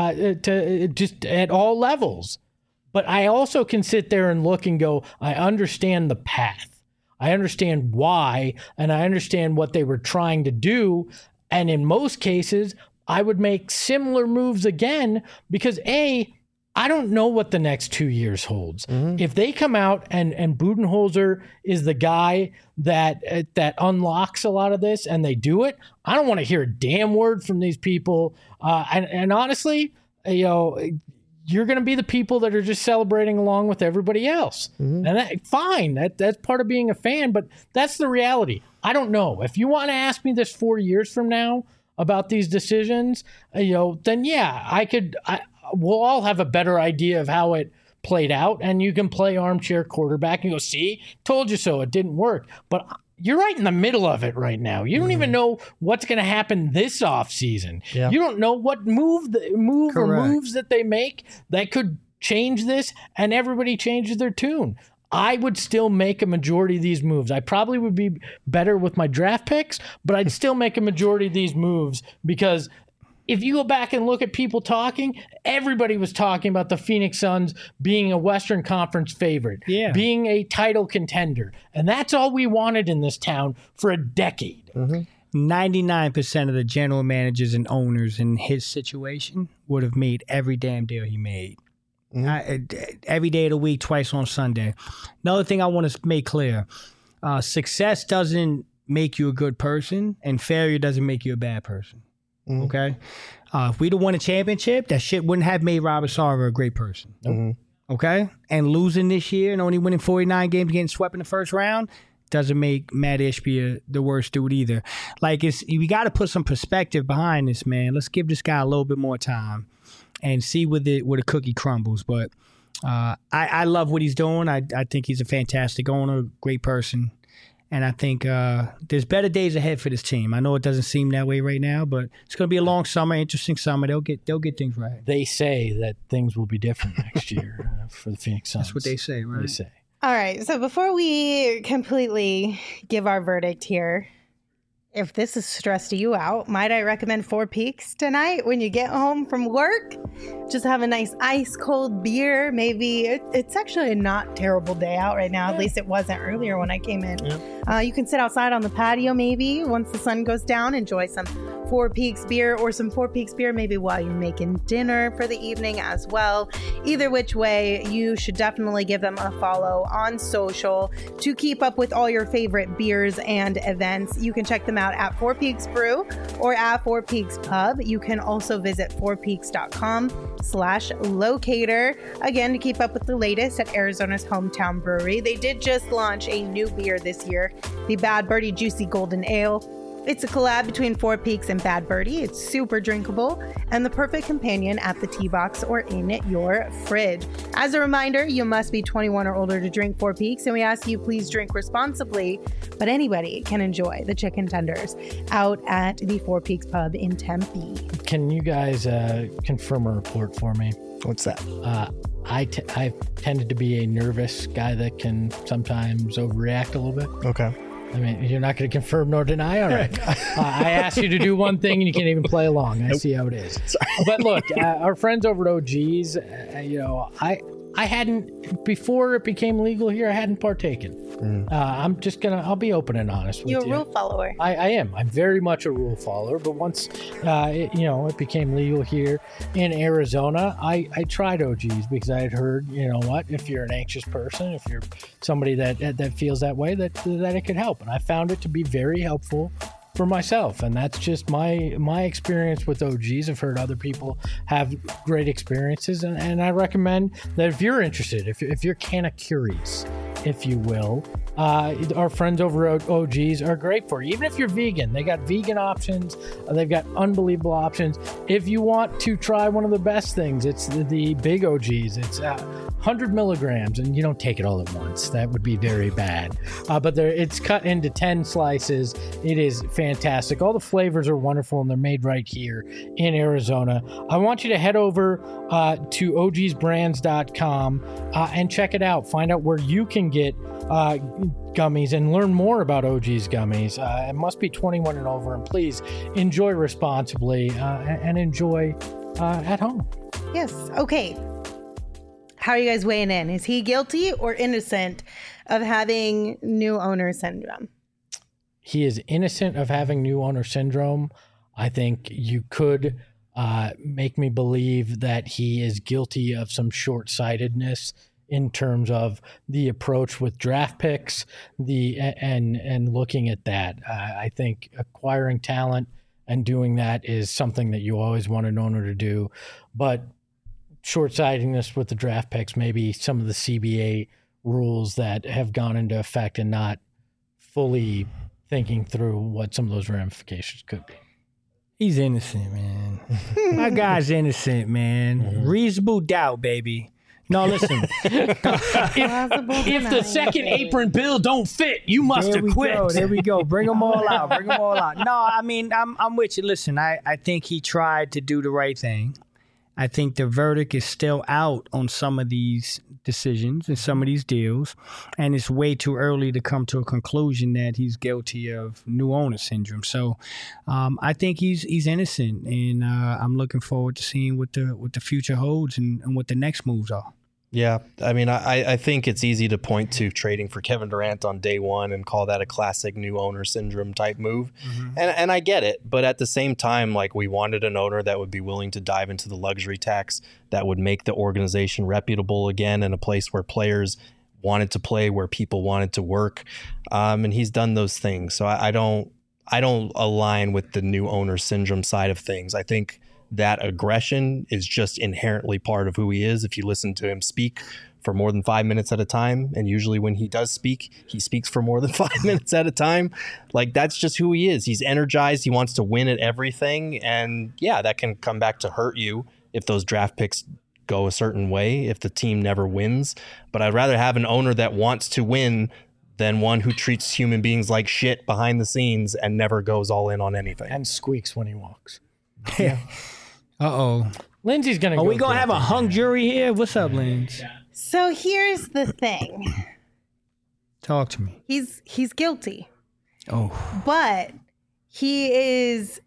to just at all levels. But I also can sit there and look and go, I understand the path. I understand why, and I understand what they were trying to do. And in most cases, I would make similar moves again because I don't know what the next 2 years holds. If they come out and Budenholzer is the guy that unlocks a lot of this and they do it, I don't want to hear a damn word from these people. And honestly, you're going to be the people that are just celebrating along with everybody else. And fine, that's part of being a fan, but that's the reality. I don't know. If you want to ask me this 4 years from now about these decisions, then yeah, we'll all have a better idea of how it played out, and you can play armchair quarterback and go, see, told you so, it didn't work. But you're right in the middle of it right now. You don't even know what's going to happen this offseason. Yeah. You don't know what move or moves that they make that could change this, and everybody changes their tune. I would still make a majority of these moves. I probably would be better with my draft picks, but I'd still make a majority of these moves because if you go back and look at people talking, everybody was talking about the Phoenix Suns being a Western Conference favorite, being a title contender. And that's all we wanted in this town for a decade. 99% of the general managers and owners in his situation would have made every damn deal he made. Every day of the week, twice on Sunday. Another thing I want to make clear, success doesn't make you a good person, and failure doesn't make you a bad person. Okay? If we'd have won a championship, that shit wouldn't have made Robert Sarver a great person. Okay? And losing this year and only winning 49 games, getting swept in the first round, doesn't make Matt Ishbia the worst dude either. Like, we got to put some perspective behind this, man. Let's give this guy a little bit more time and see where the cookie crumbles. But I love what he's doing. I think he's a fantastic owner, great person. And I think there's better days ahead for this team. I know it doesn't seem that way right now, but it's going to be a long summer, interesting summer. They'll get things right. They say that things will be different next year for the Phoenix Suns. That's what they say, right? They say. All right. So before we completely give our verdict here, if this has stressed you out, might I recommend Four Peaks tonight when you get home from work? Just have a nice ice cold beer. Maybe it's actually a not terrible day out right now. At least it wasn't earlier when I came in. You can sit outside on the patio maybe once the sun goes down, enjoy some Four Peaks beer or some Four Peaks beer maybe while you're making dinner for the evening as well. Either which way, you should definitely give them a follow on social to keep up with all your favorite beers and events. You can check them out at Four Peaks Brew or at Four Peaks Pub. You can also visit fourpeaks.com/locator again to keep up with the latest at Arizona's hometown brewery. They did just launch a new beer this year, the Bad Birdie Juicy Golden Ale. It's a collab between Four Peaks and Bad Birdie. It's super drinkable and the perfect companion at the tea box or in your fridge. As a reminder, you must be 21 or older to drink Four Peaks, and we ask you please drink responsibly, but anybody can enjoy the chicken tenders out at the Four Peaks Pub in Tempe. Can you guys confirm a report for me? What's that? I've tended to be a nervous guy that can sometimes overreact a little bit. Okay. I mean, you're not going to confirm nor deny. All right. I asked you to do one thing and you can't even play along. I see how it is. Sorry. But look, our friends over at OG's, I hadn't, before it became legal here, I hadn't partaken. I'll be open and honest with you. You're a rule follower. I am. I'm very much a rule follower. But once, it became legal here in Arizona, I tried OG's because I had heard, if you're an anxious person, if you're somebody that feels that way, that it could help. And I found it to be very helpful for myself, and that's just my experience with OGs. I've heard other people have great experiences, and I recommend that if you're interested, if you're kind of curious, if you will, our friends over at OGs are great for you. Even if you're vegan, they got vegan options. They've got unbelievable options. If you want to try one of the best things, it's the big OGs. It's 100 milligrams, and you don't take it all at once. That would be very bad. But it's cut into 10 slices. It is fantastic. All the flavors are wonderful, and they're made right here in Arizona. I want you to head over to ogsbrands.com and check it out. Find out where you can get gummies and learn more about OG's gummies. It must be 21 and over, and please enjoy responsibly and enjoy at home. Yes. Okay. How are you guys weighing in? Is he guilty or innocent of having new owner syndrome? He is innocent of having new owner syndrome. I think you could make me believe that he is guilty of some short-sightedness in terms of the approach with draft picks, and looking at that. I think acquiring talent and doing that is something that you always want an owner to do, but short-sightedness with the draft picks, maybe some of the CBA rules that have gone into effect and not fully thinking through what some of those ramifications could be. He's innocent, man. My guy's innocent, man. Mm-hmm. Reasonable doubt, baby. No, listen. if the second apron bill don't fit, you must have quit. There we go. Bring them all out. No, I mean, I'm with you. Listen, I think he tried to do the right thing. I think the verdict is still out on some of these decisions and some of these deals, and it's way too early to come to a conclusion that he's guilty of new owner syndrome. So I think he's innocent, and I'm looking forward to seeing what the future holds and what the next moves are. Yeah, I mean, I think it's easy to point to trading for Kevin Durant on day one and call that a classic new owner syndrome type move. And I get it. But at the same time, like, we wanted an owner that would be willing to dive into the luxury tax, that would make the organization reputable again, in a place where players wanted to play, where people wanted to work. And he's done those things. So I don't align with the new owner syndrome side of things. I think that aggression is just inherently part of who he is. If you listen to him speak for more than 5 minutes at a time, and usually when he does speak, he speaks for more than 5 minutes at a time, like, that's just who he is. He's energized. He wants to win at everything. And yeah, that can come back to hurt you if those draft picks go a certain way, if the team never wins. But I'd rather have an owner that wants to win than one who treats human beings like shit behind the scenes and never goes all in on anything. And squeaks when he walks. Uh-oh. Lindsay's going to Are we going to have a hung jury here? What's up, Lindsay? So here's the thing. Talk to me. He's guilty. Oh. But it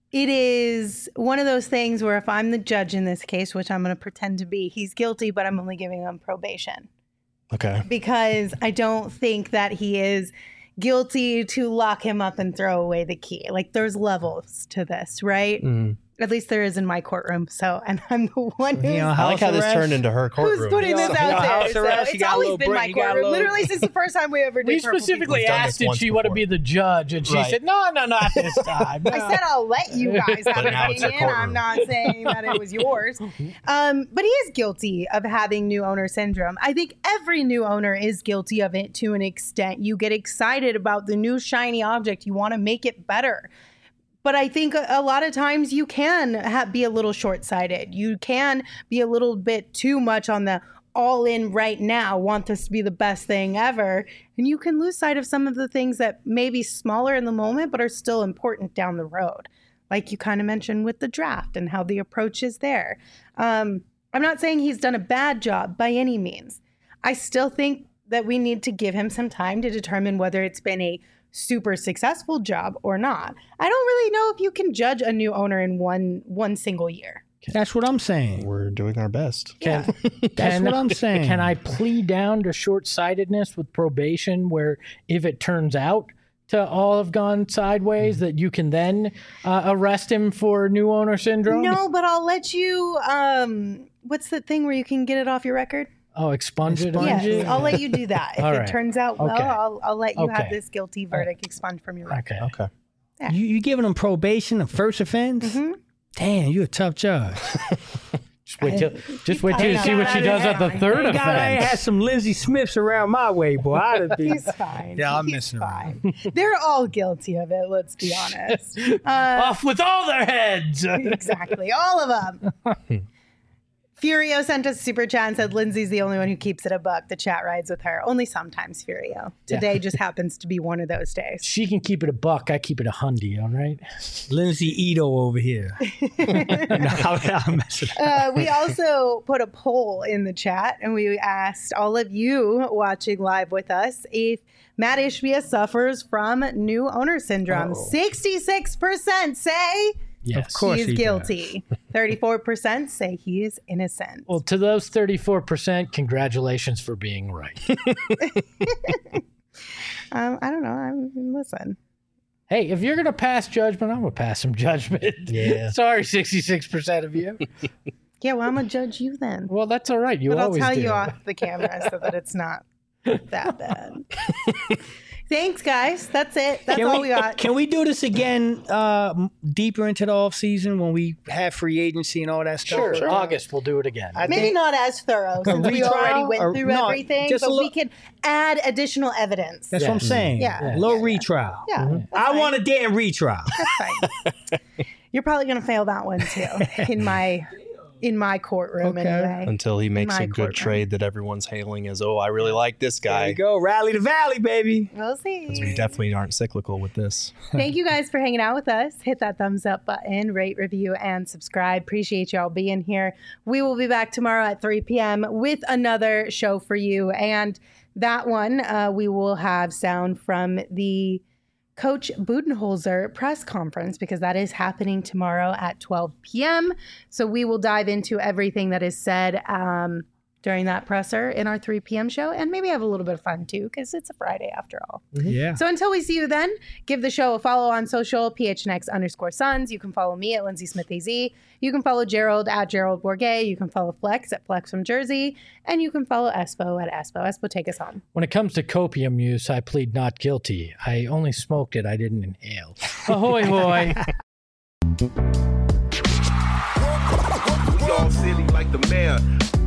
is one of those things where if I'm the judge in this case, which I'm going to pretend to be, he's guilty, but I'm only giving him probation. Okay. Because I don't think that he is guilty to lock him up and throw away the key. Like, there's levels to this, right? At least there is in my courtroom. So, and I'm the one who's, I like how this turned into her courtroom. who's putting this out there. So it's always been my courtroom. Literally since the first time we ever did. We specifically asked if she want to be the judge, and she said, no, not this time. No. I said, I'll let you guys have an opinion. I'm not saying that it was yours. But he is guilty of having new owner syndrome. I think every new owner is guilty of it to an extent. You get excited about the new shiny object. You want to make it better. But I think a lot of times you can be a little short-sighted. You can be a little bit too much on the all in right now, want this to be the best thing ever. And you can lose sight of some of the things that may be smaller in the moment, but are still important down the road. Like you kind of mentioned with the draft and how the approach is there. I'm not saying he's done a bad job by any means. I still think that we need to give him some time to determine whether it's been a super successful job or not. I don't really know if you can judge a new owner in one single year. That's what I'm saying. We're doing our best. That's what I'm saying. Can I plead down to short-sightedness with probation, where if it turns out to all have gone sideways, that you can then arrest him for new owner syndrome? No, but I'll let you, what's the thing where you can get it off your record? Oh, expunge it? Yes, I'll let you do that. If it turns out well, Okay. I'll let you have this guilty verdict expunged from your record. Okay. Okay. You giving him probation, a first offense? Damn, you're a tough judge. Just wait till you see what she does at the third I ain't offense. had some Lindsay Smiths around my way, boy. I'd be. He's fine. Yeah, I'm He's messing around. fine. They're all guilty of it, let's be honest. Off with all their heads. Exactly. All of them. Furio sent us a super chat and said Lindsay's the only one who keeps it a buck. The chat rides with her. Only sometimes, Furio. Today just happens to be one of those days. She can keep it a buck. I keep it a hundy, all right? Lindsay Ito over here. I'm messing around. We also put a poll in the chat and we asked all of you watching live with us if Matt Ishbia suffers from new owner syndrome. 66% say Of course he is he guilty. 34% say he is innocent. Well, to those 34%, congratulations for being right. I don't know. Listen. Hey, if you're going to pass judgment, I'm going to pass some judgment. Yeah. Sorry, 66% of you. Yeah, well, I'm going to judge you then. Well, that's all right. You But I'll always tell do. you off the camera so that it's not that bad. Thanks, guys. That's it. That's all we got. Can we do this again deeper into the off season when we have free agency and all that stuff? Sure. August, we'll do it again. Maybe not as thorough since we already went through no, everything, just a but we little- can add additional evidence. That's what I'm saying. Yeah. Low retrial. Yeah, that's I fine. want a damn retrial. That's fine. You're probably going to fail that one too in my courtroom Okay. anyway. Until he makes My a good courtroom. trade that everyone's hailing as, oh, I really like this There guy. you go. Rally the valley, baby. We'll see. We definitely aren't cyclical with this. Thank you guys for hanging out with us. Hit that thumbs up button, rate, review, and subscribe. Appreciate y'all being here. We will be back tomorrow at 3 p.m. with another show for you. And that one, we will have sound from the Coach Budenholzer press conference because that is happening tomorrow at 12 p.m. So we will dive into everything that is said during that presser in our 3 p.m. show, and maybe have a little bit of fun too, because it's a Friday after all. Yeah. So until we see you then, give the show a follow on social, PHNX_Suns. You can follow me at Lindsay Smith AZ. You can follow Gerald at Gerald Bourget. You can follow Flex at Flex from Jersey. And you can follow Espo at Espo. Espo, take us home. When it comes to copium use, I plead not guilty. I only smoked it. I didn't inhale. Ahoy, hoy. We all silly like the mayor.